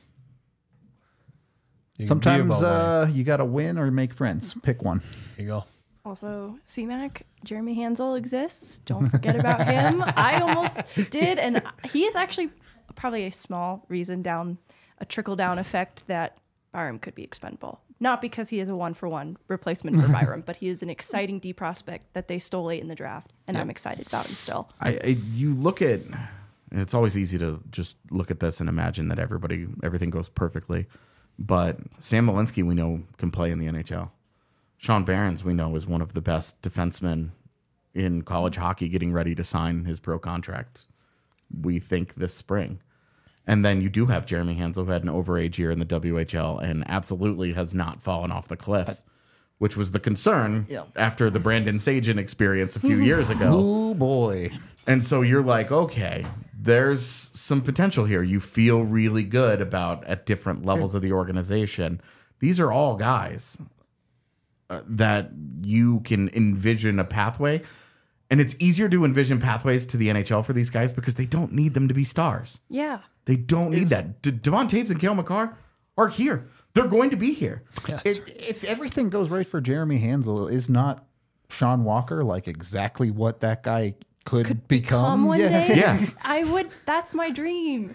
you can be Sometimes about winning. you got to win or make friends. Pick one. There you go. Also, CMAC, Jeremy Hansel exists. Don't forget about him. I almost did, and he is actually probably a small reason a trickle-down effect that Byram could be expendable. Not because he is a one-for-one replacement for Byram, but he is an exciting D prospect that they stole late in the draft, and I'm excited about him still. you look at. It's always easy to just look at this and imagine that everything goes perfectly. But Sam Malinsky, we know, can play in the NHL. Sean Behrens, we know, is one of the best defensemen in college hockey getting ready to sign his pro contract, we think, this spring. And then you do have Jeremy Hansel, who had an overage year in the WHL and absolutely has not fallen off the cliff, which was the concern after the Brandon Sagen experience a few years ago. Oh, boy. And so you're like, okay, there's some potential here. You feel really good about at different levels of the organization. These are all guys that you can envision a pathway. And it's easier to envision pathways to the NHL for these guys because they don't need them to be stars. Yeah. They don't need that. Devon Taves and Cale Makar are here. They're going to be here. Yes. If everything goes right for Jeremy Hansel, is not Sean Walker like exactly what that guy could become one day. Yeah. I would. That's my dream.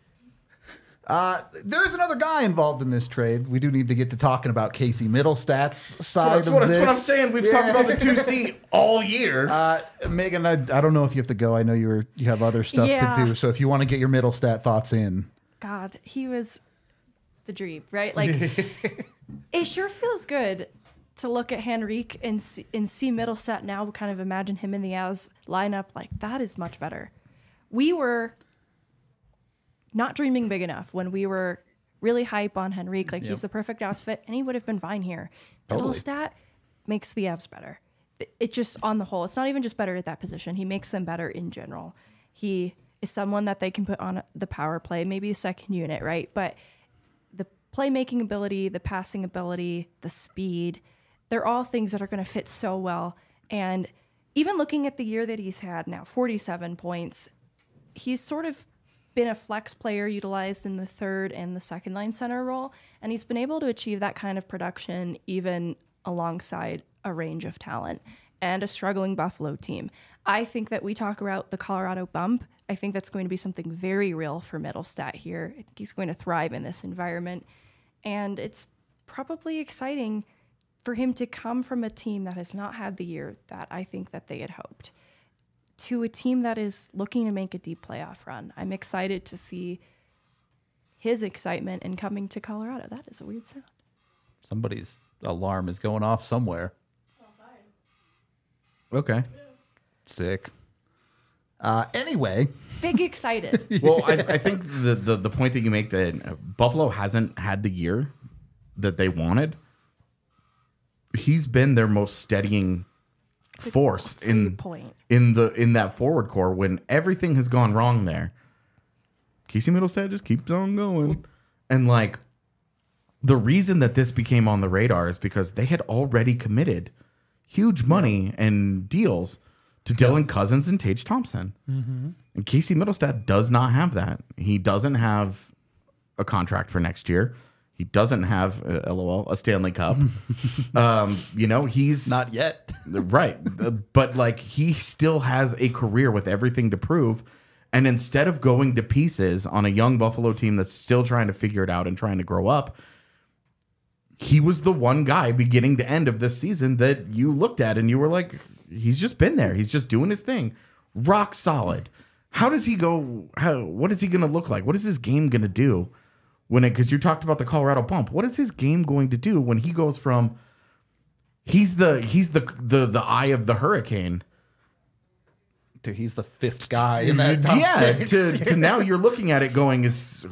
There's another guy involved in this trade. We do need to get to talking about Casey Middlestat's side That's of what this. I'm saying. We've talked about the 2C all year. Megan, I don't know if you have to go. I know you have other stuff Yeah. to do. So if you want to get your Middlestat thoughts in. God, he was the dream, right? Like, it sure feels good to look at Henrique and see Middlestat now. Kind of imagine him in the As lineup. Like, that is much better. We were not dreaming big enough when we were really hype on Henrique. Like, he's the perfect Avs fit, and he would have been fine here. Totally. Middlestat makes the Avs better. It just, on the whole, it's not even just better at that position. He makes them better in general. He is someone that they can put on the power play, maybe a second unit, right? But the playmaking ability, the passing ability, the speed, they're all things that are going to fit so well. And even looking at the year that he's had now, 47 points, he's sort of been a flex player utilized in the third and the second line center role. And he's been able to achieve that kind of production even alongside a range of talent and a struggling Buffalo team. I think that we talk about the Colorado bump. I think that's going to be something very real for Middlestat here. I think he's going to thrive in this environment. And it's probably exciting for him to come from a team that has not had the year that I think that they had hoped to a team that is looking to make a deep playoff run. I'm excited to see his excitement in coming to Colorado. That is a weird sound. Somebody's alarm is going off somewhere. Okay. Sick. Anyway, Big excited. Well, I think the point that you make that Buffalo hasn't had the year that they wanted. He's been their most steadying force in that forward core when everything has gone wrong there. Casey Middlestat just keeps on going. And like the reason that this became on the radar is because they had already committed huge money and deals to Dylan Cousins and Tage Thompson. Mm-hmm. And Casey Middlestat does not have that. He doesn't have a contract for next year. He doesn't have, LOL, a Stanley Cup. He's not yet. Right. But like he still has a career with everything to prove. And instead of going to pieces on a young Buffalo team that's still trying to figure it out and trying to grow up, he was the one guy beginning to end of this season that you looked at and you were like, he's just been there. He's just doing his thing. Rock solid. How does he go? What is he going to look like? What is his game going to do? Because you talked about the Colorado bump. What is his game going to do when he goes from he's the eye of the hurricane Dude, he's the fifth guy in that top six. to now you're looking at it going, is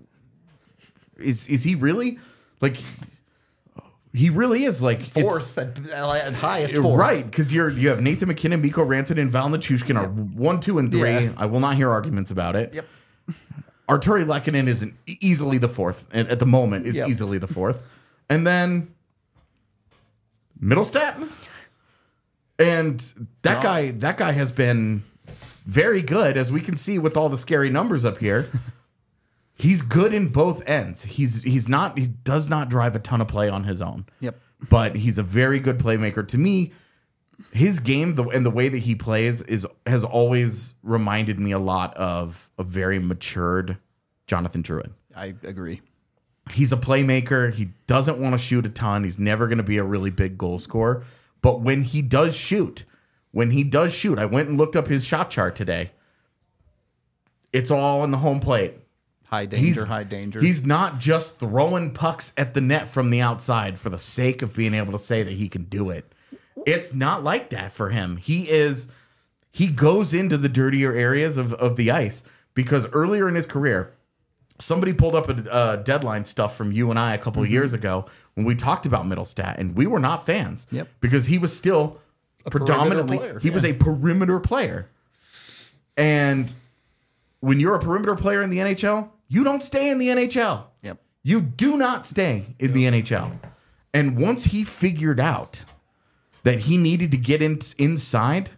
he really like? He really is like fourth at highest fourth. Right, because you have Nathan McKinnon, Mikko Rantanen, and Val Nichushkin are 1, 2, and 3. Yeah. I will not hear arguments about it. Yep. Arturi Lehkonen is easily the fourth, and at the moment is easily the fourth. And then Middlestat. And that guy has been very good, as we can see with all the scary numbers up here. He's good in both ends. He does not drive a ton of play on his own. Yep. But he's a very good playmaker. To me, his game and the way that he plays has always reminded me a lot of a very matured Jonathan Drouin. I agree. He's a playmaker. He doesn't want to shoot a ton. He's never going to be a really big goal scorer. But when he does shoot, I went and looked up his shot chart today. It's all on the home plate. High danger. He's not just throwing pucks at the net from the outside for the sake of being able to say that he can do it. It's not like that for him. He goes into the dirtier areas of the ice because earlier in his career, somebody pulled up a deadline stuff from you and I a couple of years ago when we talked about Middlestat, and we were not fans. Yep. Because he was still predominantly player, he was a perimeter player. And when you're a perimeter player in the NHL, you don't stay in the NHL. Yep. You do not stay in the NHL. And once he figured out that he needed to get inside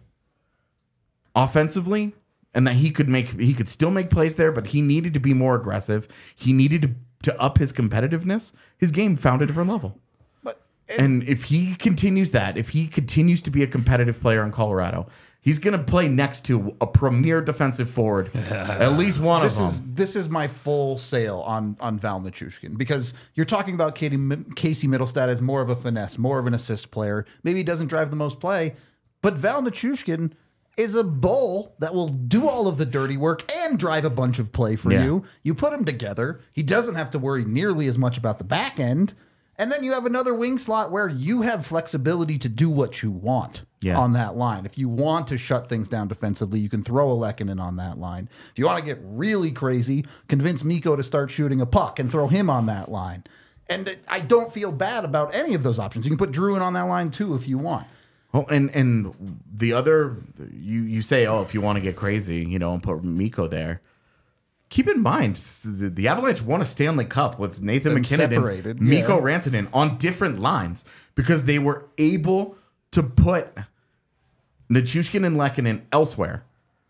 offensively and that he could still make plays there, but he needed to be more aggressive. He needed to up his competitiveness. His game found a different level. And if he continues that, if he continues to be a competitive player in Colorado, he's going to play next to a premier defensive forward, at least one of them. This is my full sale on Val Nichushkin, because you're talking about Casey Middlestat as more of a finesse, more of an assist player. Maybe he doesn't drive the most play, but Val Nichushkin is a bull that will do all of the dirty work and drive a bunch of play for you. You put him together. He doesn't have to worry nearly as much about the back end. And then you have another wing slot where you have flexibility to do what you want on that line. If you want to shut things down defensively, you can throw a Lehkonen on that line. If you want to get really crazy, convince Mikko to start shooting a puck and throw him on that line. And I don't feel bad about any of those options. You can put Drouin on that line too if you want. Oh, and the other, you say, oh, if you want to get crazy, and put Mikko there. Keep in mind, the Avalanche won a Stanley Cup with Nathan McKinnon and Mikko Rantanen on different lines because they were able to put Nichushkin and Lehkonen elsewhere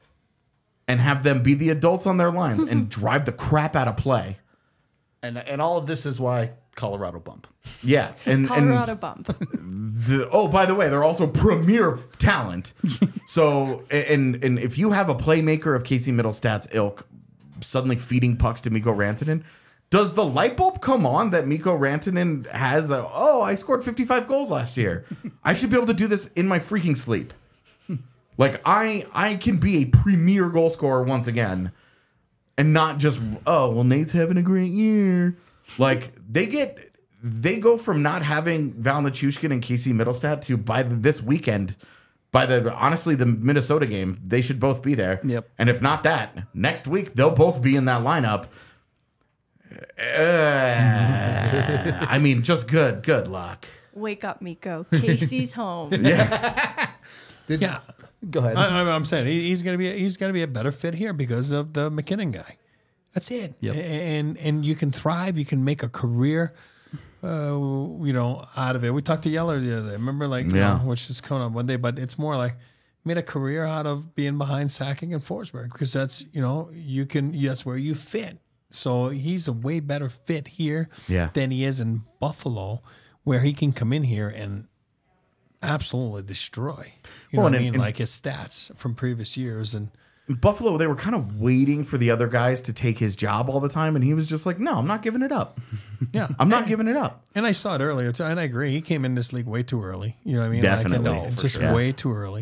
and have them be the adults on their lines and drive the crap out of play. And all of this is why Colorado bump. Yeah. Colorado bump. By the way, they're also premier talent. So, and if you have a playmaker of Casey Middlestat's ilk suddenly feeding pucks to Mikko Rantanen, does the light bulb come on that Mikko Rantanen has I scored 55 goals last year. I should be able to do this in my freaking sleep. Like, I can be a premier goal scorer once again and not just, Nate's having a great year. Like, they go from not having Val Nichushkin and Casey Middlestat to this weekend, honestly, the Minnesota game, they should both be there. Yep. And if not that, next week, they'll both be in that lineup. I mean, just good luck. Wake up, Mikko. Casey's home. Go ahead. I'm saying he's gonna be a better fit here because of the McKinnon guy. That's it. Yep. And you can thrive. You can make a career. Out of it. We talked to Yeller the other day. Remember, which is coming up one day, but it's more like made a career out of being behind Sacking and Forsberg because that's that's where you fit. So he's a way better fit here than he is in Buffalo, where he can come in here and absolutely destroy. You know what I mean? Like his stats from previous years. And Buffalo, they were kind of waiting for the other guys to take his job all the time, and he was just like, no, I'm not giving it up. I'm not giving it up. And I saw it earlier, too, and I agree. He came in this league way too early. You know what I mean? Definitely. Way too early.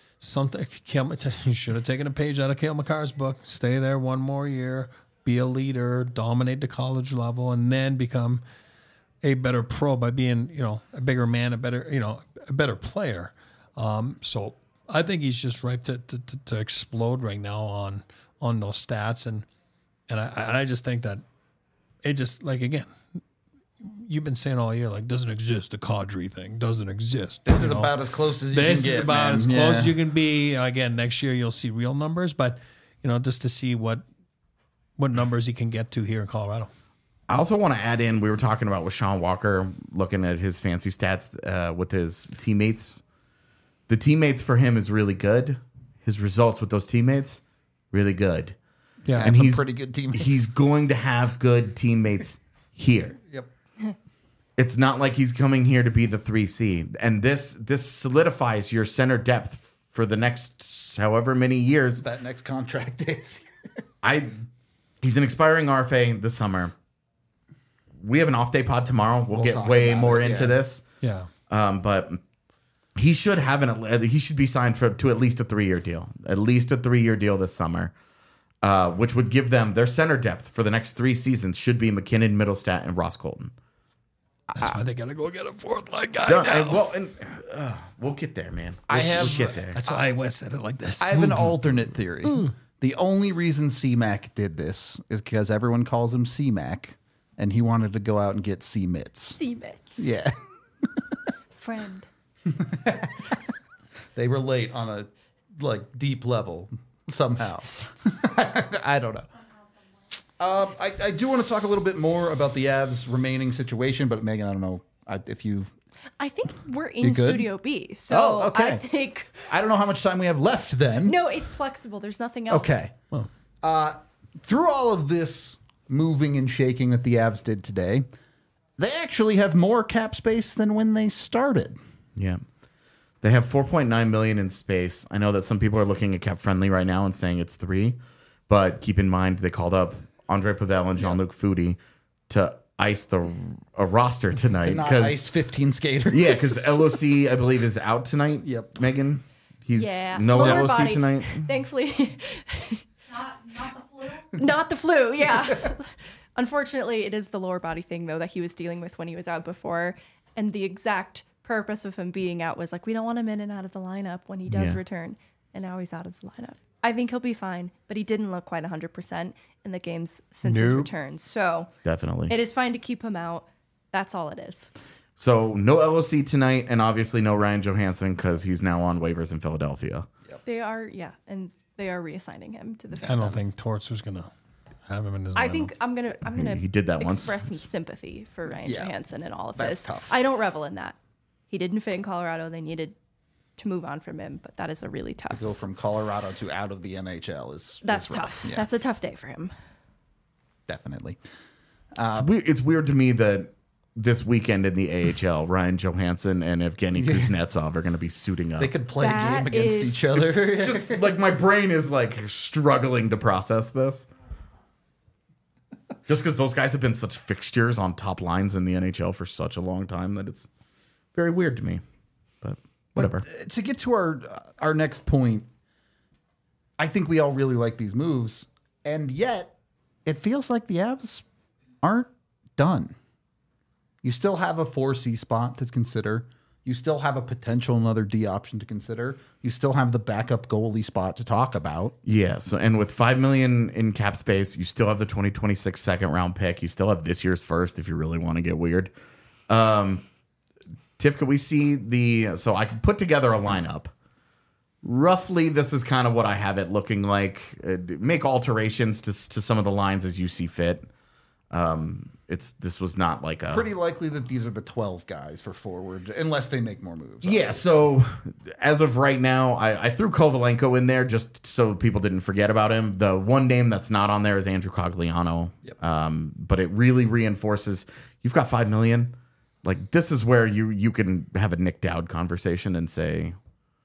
He should have taken a page out of Cale Makar's book, stay there one more year, be a leader, dominate the college level, and then become a better pro by being, a bigger man, a better player. So I think he's just ripe to explode right now on those stats, and I just think that it just again, you've been saying all year doesn't exist. The Kadri thing doesn't exist. This is about as close as you can get. This is about as close as you can be. Again, next year you'll see real numbers, but just to see what numbers he can get to here in Colorado. I also want to add in, we were talking about with Sean Walker, looking at his fancy stats with his teammates. The teammates for him is really good. His results with those teammates, really good. Yeah, and he's pretty good teammates. He's going to have good teammates here. Yep. It's not like he's coming here to be the 3C. And this solidifies your center depth for the next however many years. That next contract is. He's an expiring RFA this summer. We have an off day pod tomorrow. We'll get way more into this. Yeah. But he should he should be signed to at least a 3-year deal. At least a 3-year deal this summer. Which would give them their center depth for the next 3 seasons should be McKinnon, Middlestat, and Ross Colton. That's why they gotta go get a fourth line guy now. We'll get there, man. We'll get there. That's why I said it like this. I have an alternate theory. The only reason C-Mac did this is because everyone calls him C-Mac, and he wanted to go out and get C-Mitts. C-Mitts. Yeah. Friend. They relate on a deep level. somehow. I don't know. I do want to talk a little bit more about the Avs' remaining situation, but Megan, I don't know if you. I think we're in good? Studio B, so Oh, okay. I think I don't know how much time we have left then. no, it's flexible. There's nothing else. Okay. Through all of this moving and shaking that the Avs did today, they actually have more cap space than when they started. Yeah. They have 4.9 million in space. I know that some people are looking at cap friendly right now and saying it's 3, but keep in mind they called up Andre Pavel and Jean-Luc Foudy to ice a roster tonight. To not ice 15 skaters. Yeah, because LOC, I believe, is out tonight. Yep. Megan? He's Yeah. no Lower LOC body. tonight. Thankfully, Not the flu. not the flu. Yeah. Unfortunately, it is the lower body thing though that he was dealing with when he was out before, and the exact purpose of him being out was like we don't want him in and out of the lineup when he does Yeah. return, and now he's out of the lineup. I think he'll be fine, but he didn't look quite 100% in the games since his Nope. return. So Definitely. it is fine to keep him out. That's all it is. So no LOC tonight, and obviously no Ryan Johansson because he's now on waivers in Philadelphia. They are, and they are reassigning him to the I Phantoms. don't think Torts was gonna have him in his. I lineup. think I'm gonna He did that once. express some sympathy for Ryan Yeah. Johansson and all of That's this. tough. I don't revel in that. He didn't fit in Colorado. They needed to move on from him, but that is a really tough. Go from Colorado to out of the NHL That's is rough. tough. Yeah, That's a tough day for him. definitely. It's weird to me that this weekend in the AHL, Ryan Johansson and Evgeny Kuznetsov are going to be suiting up. They could play a That game against is- each other. It's just like my brain is like struggling to process this. Just because those guys have been such fixtures on top lines in the NHL for such a long time that it's very weird to me. But whatever. To get to our next point, I think we all really like these moves, and yet it feels like the Avs aren't done. You still have a 4C spot to consider. You still have a potential another D option to consider. You still have the backup goalie spot to talk about. Yeah. So, and with $5 million in cap space, you still have the 2026 second round pick. You still have this year's first if you really want to get weird. Tiff, could we see so I can put together a lineup. Roughly, this is kind of what I have it looking like. Make alterations to some of the lines as you see fit. This was not like a Pretty likely that these are the 12 guys for forward, unless they make more moves. Yeah, so as of right now, I threw Kovalenko in there just so people didn't forget about him. The one name that's not on there is Andrew Cogliano. Yep. But it really reinforces you've got $5 million. Like this is where you can have a Nick Dowd conversation and say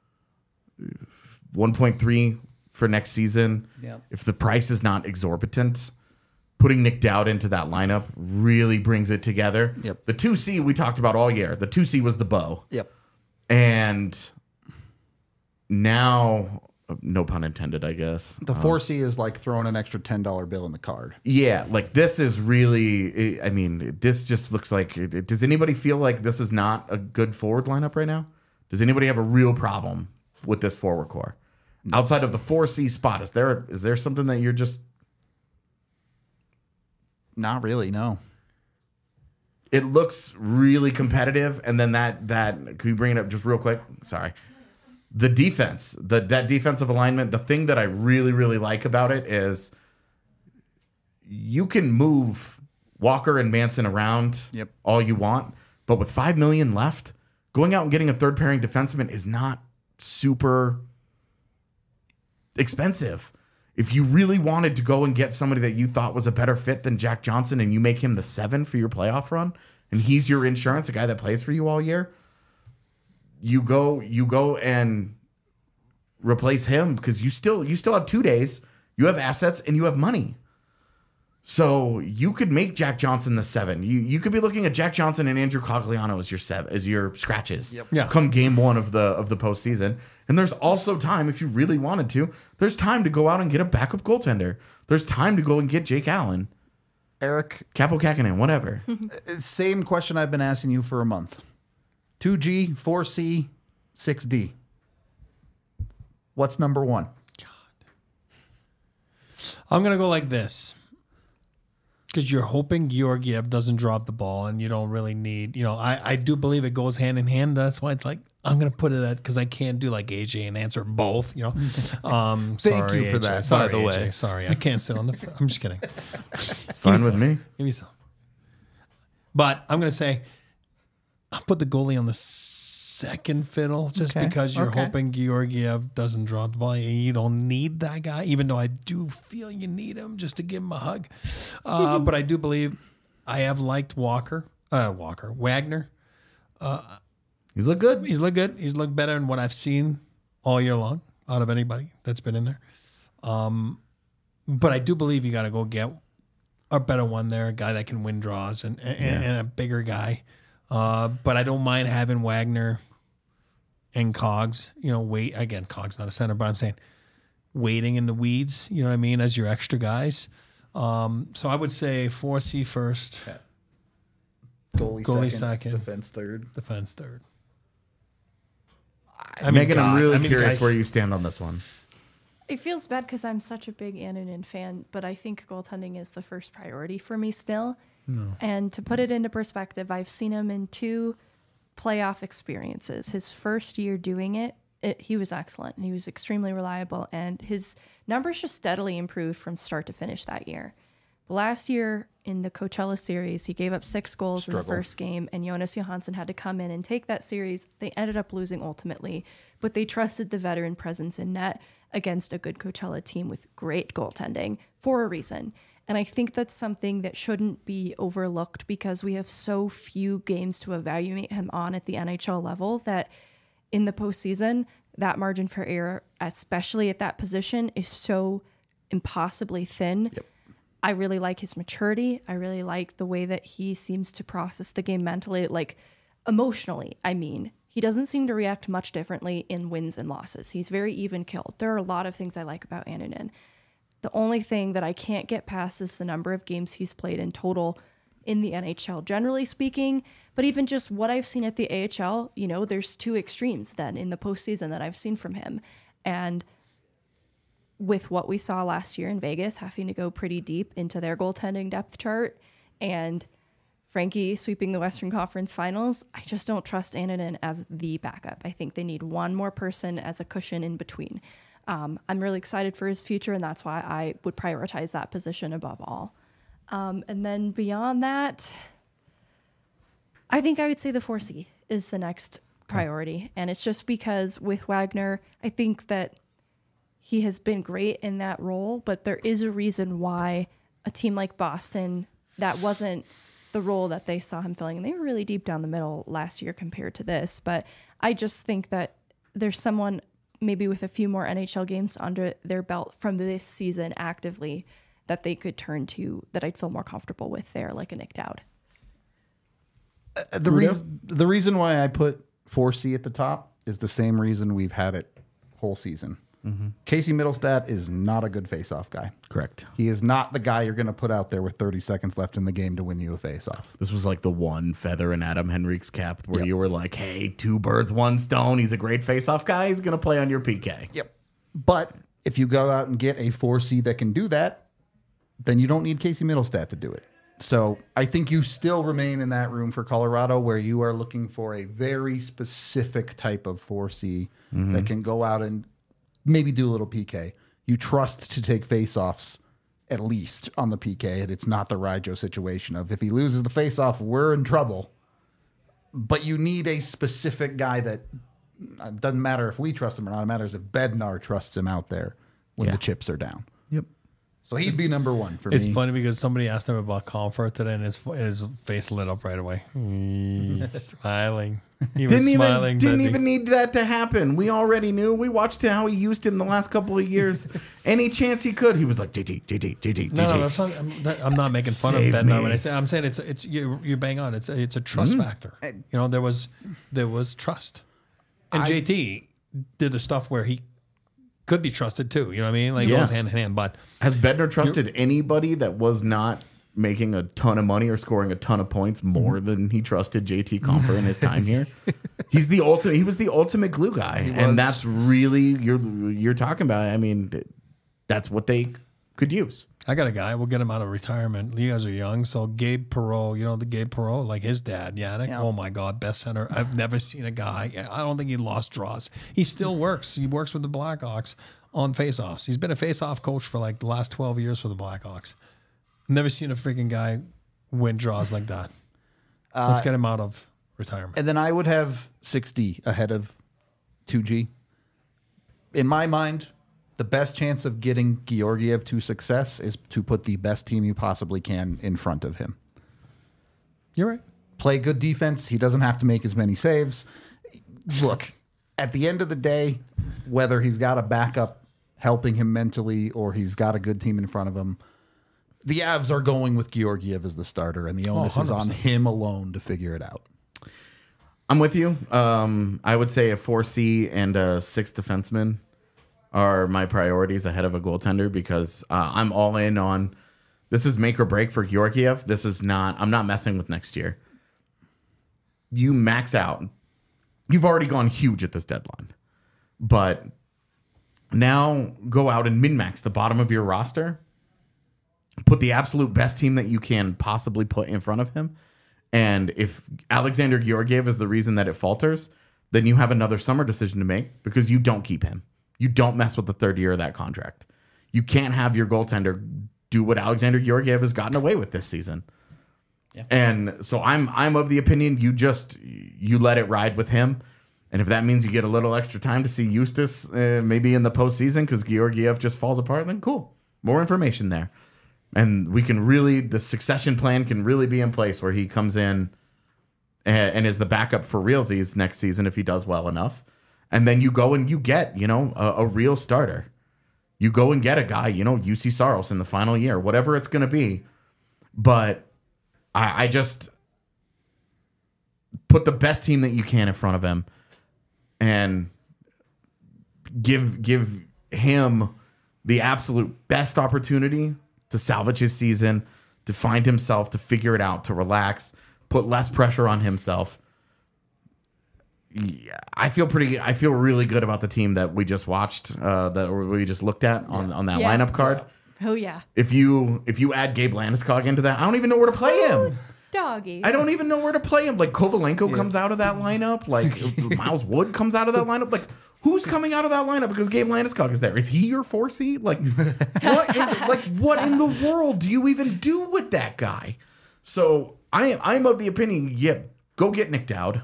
1.3 for next season. Yep. If the price is not exorbitant, putting Nick Dowd into that lineup really brings it together. Yep. The 2C we talked about all year. The 2C was the bow. Yep. And now, no pun intended, I guess. The 4C is like throwing an extra $10 bill in the card. Yeah, like this is really, I mean, this just looks like, does anybody feel like this is not a good forward lineup right now? Does anybody have a real problem with this forward core? Outside of the 4C spot, is there something that you're just... Not really, no. It looks really competitive, and then that can you bring it up just real quick? Sorry. The defense, that defensive alignment, the thing that I really, really like about it is you can move Walker and Manson around Yep. all you want, but with $5 million left, going out and getting a third pairing defenseman is not super expensive. If you really wanted to go and get somebody that you thought was a better fit than Jack Johnson and you make him the 7 for your playoff run and he's your insurance, a guy that plays for you all year, you go and replace him because you still have 2 days, you have assets, and you have money. So you could make Jack Johnson the 7. You could be looking at Jack Johnson and Andrew Cogliano as your 7, as your scratches. Yep. Yeah. Come game 1 of the postseason. And there's also time, if you really wanted to, there's time to go out and get a backup goaltender. There's time to go and get Jake Allen, Eric, Capo Kakinen, whatever. same question I've been asking you for a month. 2G, 4C, 6D. What's number 1? I'm going to go like this. Because you're hoping Georgiev doesn't drop the ball and you don't really need, I do believe it goes hand in hand. That's why it's like, I'm gonna put it at because I can't do like AJ and answer both. You know. Thank Sorry, you for AJ. that, Sorry, by the way. AJ. Sorry, I can't sit on the. I'm just kidding. It's fine with me. Give me some. But I'm gonna say, I'll put the goalie on the second fiddle just Okay, because you're okay. hoping Georgiev doesn't drop the ball. And you don't need that guy, even though I do feel you need him just to give him a hug. But I do believe I have liked Wagner. He's look good. He's looked good. He's looked better than what I've seen all year long out of anybody that's been in there. But I do believe you got to go get a better one there, a guy that can win draws and a bigger guy. But I don't mind having Wagner and Cogs. You know, Cogs not a center, but I'm saying waiting in the weeds. You know what I mean, as your extra guys. So I would say 4C first, Goalie second. defense third. defense third. Megan, I'm really guys- curious where you stand on this one. It feels bad because I'm such a big Annunen fan, but I think goaltending is the first priority for me still. No. And to put it into perspective, I've seen him in 2 playoff experiences. His first year doing it, he was excellent. And he was extremely reliable, and his numbers just steadily improved from start to finish that year. Last year in the Coachella series, he gave up 6 goals in the first game, and Jonas Johansson had to come in and take that series. They ended up losing ultimately, but they trusted the veteran presence in net against a good Coachella team with great goaltending for a reason. And I think that's something that shouldn't be overlooked because we have so few games to evaluate him on at the NHL level that in the postseason, that margin for error, especially at that position, is so impossibly thin. Yep. I really like his maturity. I really like the way that he seems to process the game mentally, like emotionally. I mean, he doesn't seem to react much differently in wins and losses. He's very even killed. There are a lot of things I like about Annunen. The only thing that I can't get past is the number of games he's played in total in the NHL, generally speaking. But even just what I've seen at the AHL, you know, there's 2 extremes then in the postseason that I've seen from him. And with what we saw last year in Vegas, having to go pretty deep into their goaltending depth chart, and Frankie sweeping the Western Conference Finals, I just don't trust Annunen as the backup. I think they need one more person as a cushion in between. I'm really excited for his future, and that's why I would prioritize that position above all. And then beyond that, I think I would say the 4C is the next priority. And it's just because with Wagner, I think that he has been great in that role, but there is a reason why a team like Boston, that wasn't the role that they saw him filling. And they were really deep down the middle last year compared to this. But I just think that there's someone maybe with a few more NHL games under their belt from this season actively that they could turn to that I'd feel more comfortable with there, like a Nick Dowd. The reason why I put 4C at the top is the same reason we've had it whole season. Casey Middlestat is not a good faceoff guy. Correct. He is not the guy you're going to put out there with 30 seconds left in the game to win you a faceoff. This was like the one feather in Adam Henrique's cap where you were like, hey, 2 birds, 1 stone. He's a great face-off guy. He's going to play on your PK. Yep. But if you go out and get a 4C that can do that, then you don't need Casey Middlestat to do it. So I think you still remain in that room for Colorado where you are looking for a very specific type of 4C that can go out and maybe do a little PK. You trust to take faceoffs at least on the PK, and it's not the Ryjo situation of if he loses the faceoff, we're in trouble. But you need a specific guy that it doesn't matter if we trust him or not. It matters if Bednar trusts him out there when the chips are down. Yep. So he'd be number 1 for me. It's funny because somebody asked him about Comfort today, and his face lit up right away. Smiling. He was smiling. Didn't Betsy. even need that to happen. We already knew. We watched how he used him the last couple of years. Any chance he could, he was like, JT. No, I'm not making fun Save of Bednar me. when I say I'm saying it's you bang on. It's a trust factor. You know, there was trust, and JT did the stuff where he could be trusted too. You know what I mean? Like it goes hand in hand. But Has Bednar trusted anybody that was not making a ton of money or scoring a ton of points more than he trusted JT Compher in his time here? He's the ultimate. He was the ultimate glue guy, and that's really you're talking about. I mean, that's what they could use. I got a guy. We'll get him out of retirement. You guys are young. So Gabe Perreault, you know the Gabe Perreault, like his dad, Yannick. Yeah. Oh my God, best center. I've never seen a guy. I don't think he lost draws. He still works. He works with the Blackhawks on faceoffs. He's been a faceoff coach for like the last 12 years for the Blackhawks. Never seen a freaking guy win draws like that. Let's get him out of retirement. And then I would have 6D ahead of 2G. In my mind, the best chance of getting Georgiev to success is to put the best team you possibly can in front of him. You're right. Play good defense. He doesn't have to make as many saves. Look, at the end of the day, whether he's got a backup helping him mentally or he's got a good team in front of him, the Avs are going with Georgiev as the starter, and the onus is on 100%. him alone to figure it out. I'm with you. I would say a 4C and a 6th defenseman are my priorities ahead of a goaltender because I'm all in on this is make or break for Georgiev. This is not, I'm not messing with next year. You max out. You've already gone huge at this deadline, but now go out and min-max the bottom of your roster. Put the absolute best team that you can possibly put in front of him. And if Alexander Georgiev is the reason that it falters, then you have another summer decision to make because you don't keep him. You don't mess with the third year of that contract. You can't have your goaltender do what Alexander Georgiev has gotten away with this season. Yeah. And so I'm of the opinion you let it ride with him. And if that means you get a little extra time to see Eustace maybe in the postseason because Georgiev just falls apart, then cool. More information there. And we can really, the succession plan can really be in place where he comes in and is the backup for realsies next season if he does well enough. And then you go and you get, a real starter. You go and get a guy, UC Saros in the final year, whatever it's going to be. But I just put the best team that you can in front of him and give him the absolute best opportunity to salvage his season, to find himself, to figure it out, to relax, put less pressure on himself. Yeah, I feel really good about the team that we just watched, that we just looked at on that Yeah. lineup card. Oh yeah, If you add Gabe Landeskog into that, I don't even know where to play him. doggy. I don't even know where to play him. Like Kovalenko comes out of that lineup. Like Miles Wood comes out of that lineup. Like who's coming out of that lineup because Gabe Landeskog is there? Is he your 4C? Like what in the world do you even do with that guy? So I'm of the opinion, yeah, go get Nick Dowd.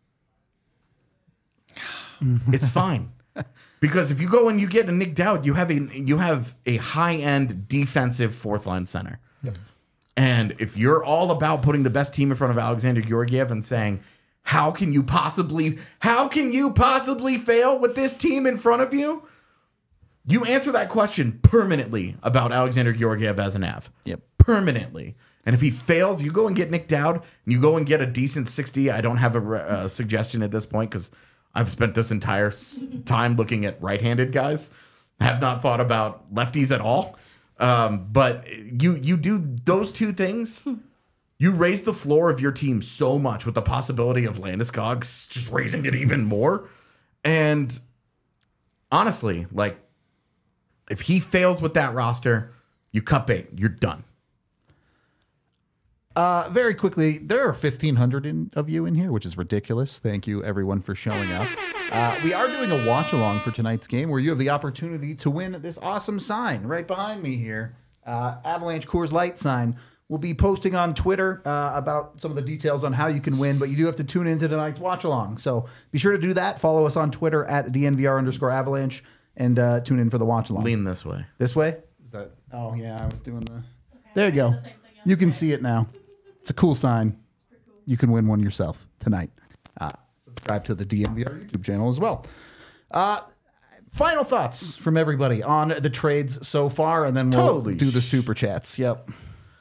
It's fine. Because if you go and you get a Nick Dowd, you have a high-end defensive fourth-line center. Yep. And if you're all about putting the best team in front of Alexander Georgiev and saying, how can you possibly fail with this team in front of you? You answer that question permanently about Alexander Georgiev as an Av. Yep. Permanently. And if he fails, you go and get Nick Dowd, and you go and get a decent 60. I don't have a suggestion at this point because I've spent this entire time looking at right-handed guys. I have not thought about lefties at all. But you do those two things. You raise the floor of your team so much with the possibility of Landeskog just raising it even more. And honestly, like, if he fails with that roster, you cut bait. You're done. Very quickly, there are 1,500 of you in here, which is ridiculous. Thank you, everyone, for showing up. We are doing a watch-along for tonight's game where you have the opportunity to win this awesome sign right behind me here. Avalanche Coors Light sign. We'll be posting on Twitter about some of the details on how you can win, but you do have to tune into tonight's watch-along. So be sure to do that. Follow us on Twitter at DNVR_Avalanche and tune in for the watch-along. Lean this way. This way? Is that? Oh, yeah, I was doing the... There you go. You can see it now. It's a cool sign. You can win one yourself tonight. Subscribe to the DNVR YouTube channel as well. Final thoughts from everybody on the trades so far, and then we'll do the super chats. Yep.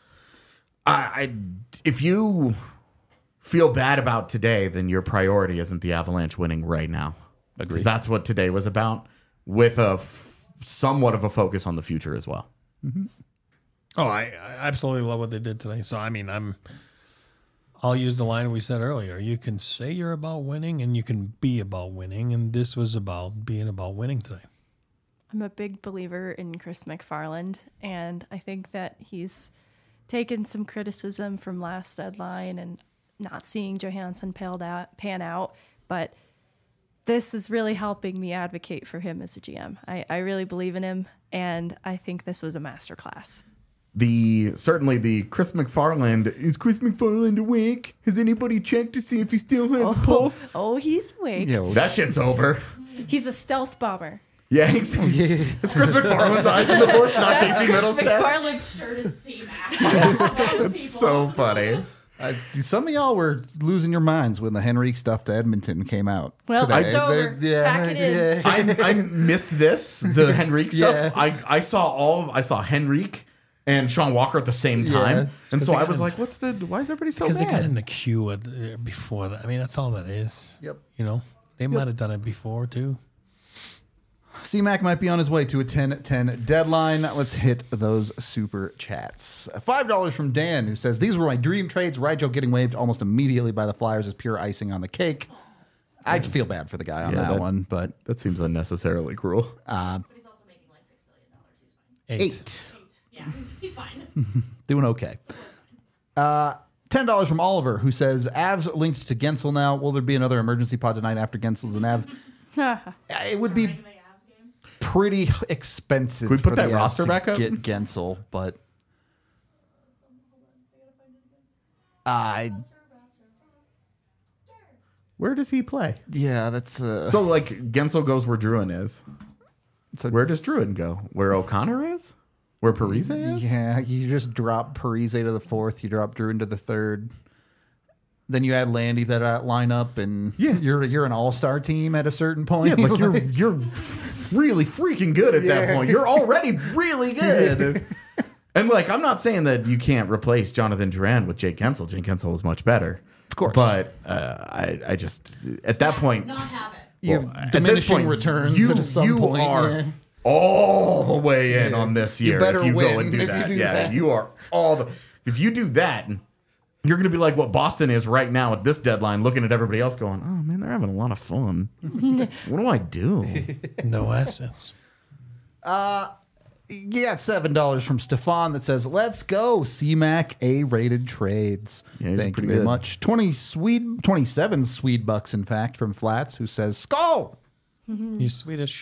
If you feel bad about today, then your priority isn't the Avalanche winning right now. Because that's what today was about, with a somewhat of a focus on the future as well. Mm-hmm. Oh, I absolutely love what they did today. So, I mean, I'll use the line we said earlier. You can say you're about winning and you can be about winning. And this was about being about winning today. I'm a big believer in Chris McFarland, and I think that he's taken some criticism from last deadline and not seeing Johansson pan out, but this is really helping me advocate for him as a GM. I really believe in him, and I think this was a masterclass. Certainly the Chris McFarland, is Chris McFarland awake? Has anybody checked to see if he still has a pulse? Oh, he's awake. Yeah, well, That shit's over. He's a stealth bomber. Yeah, it's Chris McFarland's eyes in the bush, not Casey Chris Middlestat. McFarland's Shirt is C-Mac. It's so funny. some of y'all were losing your minds when the Henrique stuff to Edmonton came out. Well, today. it's over. Pack it in. I missed this, the Henrique stuff. Yeah. I saw Henrique and Sean Walker at the same time. And so I was like, why is everybody so Because they got mad? in the queue before that. I mean, that's all that is. Yep. You know, they might have done it before too. C-Mac might be on his way to a 10-10 deadline. Let's hit those super chats. $5 from Dan, who says, these were my dream trades. Rigel getting waived almost immediately by the Flyers is pure icing on the cake. I feel bad for the guy on that one, but That seems unnecessarily cruel. But he's also making like $6 billion. He's fine. 8. Yeah, he's fine. Doing okay. $10 from Oliver, who says, Avs linked to Gensel now. Will there be another emergency pod tonight after Gensel's an Av? It would be Make the Avs game. pretty expensive. Can we put for that the Avs roster to back up? Get Gensel, but I Where does he play? yeah, that's So, like, Gensel goes where Druin is. So where does Druin go? Where O'Connor is? Where Parise is? yeah. You just drop Parise to the 4th. You drop Drew into the 3rd. Then you add Landy to that lineup, and you're an all-star team at a certain point. Yeah, like you're really freaking good at that point. You're already really good. And like, I'm not saying that you can't replace Jonathan Duran with Jake Gensel. Jake Gensel is much better, Of course. But I just at that point, Not have it. You well, have at diminishing this point, returns you, at some you point. are yeah. all the way in on this You year. better if you go win and do if you that. do Yeah, that. you are all the. If you do that, you're going to be like what Boston is right now at this deadline, looking at everybody else, going, "Oh man, they're having a lot of fun. What do I do?" No assets. You got $7 from Stefan that says, "Let's go, C-Mac A-rated trades." Yeah, he's Thank you pretty very good. much. 27 Swede bucks, in fact, from Flats, who says, "Skull." He's Swedish.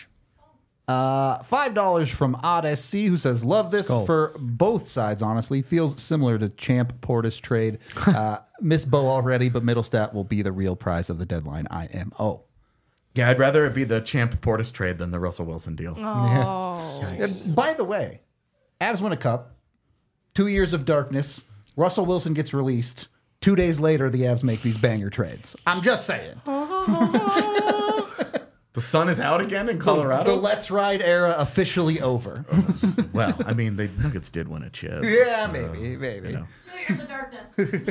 $5 from Odd SC, who says, "Love this Skull. for both sides, honestly. Feels similar to Champ Portis trade. Miss Bo already, but Middlestat will be the real prize of the deadline, IMO." Yeah, I'd rather it be the Champ Portis trade than the Russell Wilson deal. Oh, And by the way, Avs win a cup, 2 years of darkness, Russell Wilson gets released. 2 days later, the Avs make these banger trades. I'm just saying. The sun is out again in The Colorado. Let's Ride era officially over. Well, I mean, the Nuggets did win a chip. Yeah, maybe. You know. 2 years of darkness.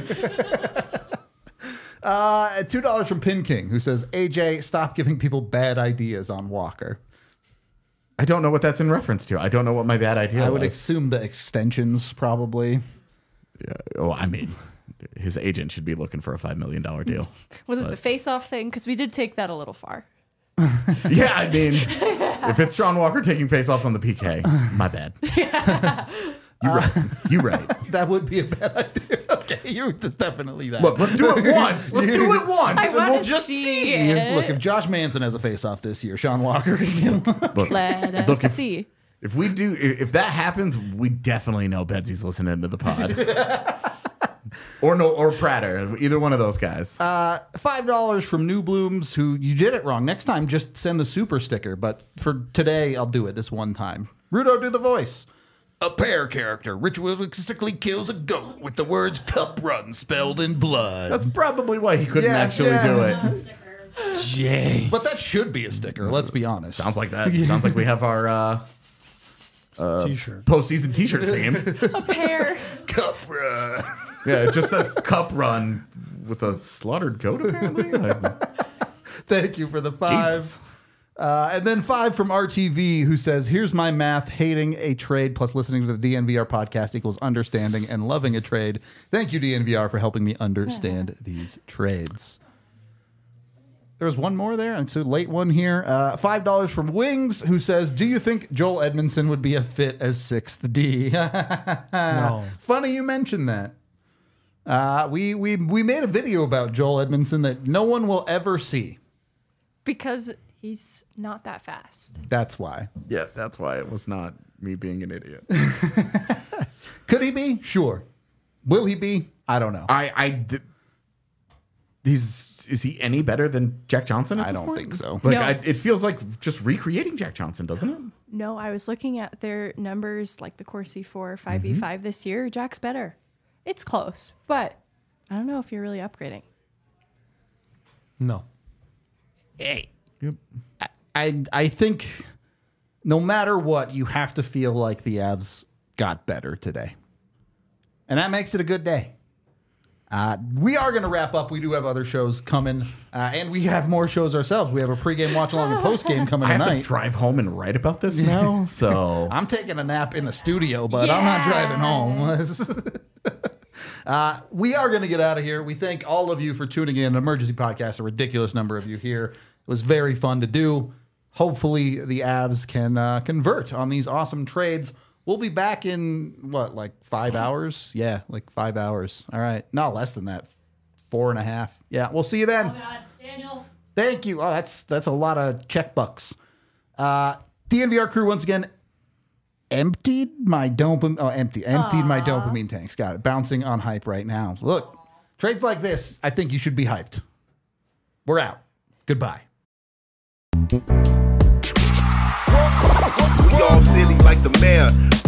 $2 from Pin King, who says, "AJ, stop giving people bad ideas on Walker." I don't know what that's in reference to. I don't know what my bad idea I would was. assume the extensions, probably. Yeah. Oh, I mean, his agent should be looking for a $5 million deal. was it the face-off thing? Because we did take that a little far. Yeah, I mean, if it's Sean Walker taking faceoffs on the PK, my bad. You're right. You're right. That would be a bad idea. Okay, that's definitely that. Look, let's do it once. Let's do it once, I and we'll want to just see see. it. Look, if Josh Manson has a face-off this year, Sean Walker can get one. Look, Let us look, see. if we do, if that happens, we definitely know Bedsy's listening to the pod. Or Prater, either one of those guys. $5 from New Blooms, who you did it wrong. Next time, just send the super sticker. But for today, I'll do it this one time. Rudo, do the voice. A pear character ritualistically kills a goat with the words "cup run" spelled in blood. That's probably why he couldn't Yeah, actually yeah. do it. Sticker. Jay. But that should be a sticker. Let's be honest. Sounds like that. Sounds like we have our T-shirt. postseason T-shirt theme. A pair. cup run. Yeah, it just says "Cup Run" with a slaughtered goat. Apparently, Thank you for the 5. Jesus. And then 5 from RTV, who says, "Here's my math. Hating a trade plus listening to the DNVR podcast equals understanding and loving a trade. Thank you, DNVR, for helping me understand these trades." there was one more there. It's a late one here. $5 from Wings, who says, do you think Joel Edmondson would be a fit as 6th D? No. Funny you mentioned that. We made a video about Joel Edmondson that no one will ever see. Because he's not that fast. That's why. Yeah, that's why it was not me being an idiot. Could he be? Sure. Will he be? I don't know. Is he any better than Jack Johnson? I don't think so. Like, No. it feels like just recreating Jack Johnson, doesn't it? No, I was looking at their numbers, like the Corsi 4 5v5 this year. Jack's better. It's close, but I don't know if you're really upgrading. No. Hey, I think no matter what, you have to feel like the Avs got better today. And that makes it a good day. We are going to wrap up. We do have other shows coming, and we have more shows ourselves. We have a pregame, watch along, and postgame coming I have tonight. to drive home and write about this now, so I'm taking a nap in the studio, but I'm not driving home. We are going to get out of here. We thank all of you for tuning in. Emergency Podcast, a ridiculous number of you here. It was very fun to do. Hopefully the Avs can convert on these awesome trades. We'll be back in, what, like 5 hours? Yeah, like 5 hours. All right. No, less than that. 4.5. Yeah, we'll see you then. Oh God, Daniel. Thank you. Oh, that's a lot of check bucks. DNVR crew once again emptied my dopamine. Oh, emptied my dopamine tanks. Got it. Bouncing on hype right now. Look, trades like this, I think you should be hyped. We're out. Goodbye. We all silly like the mayor.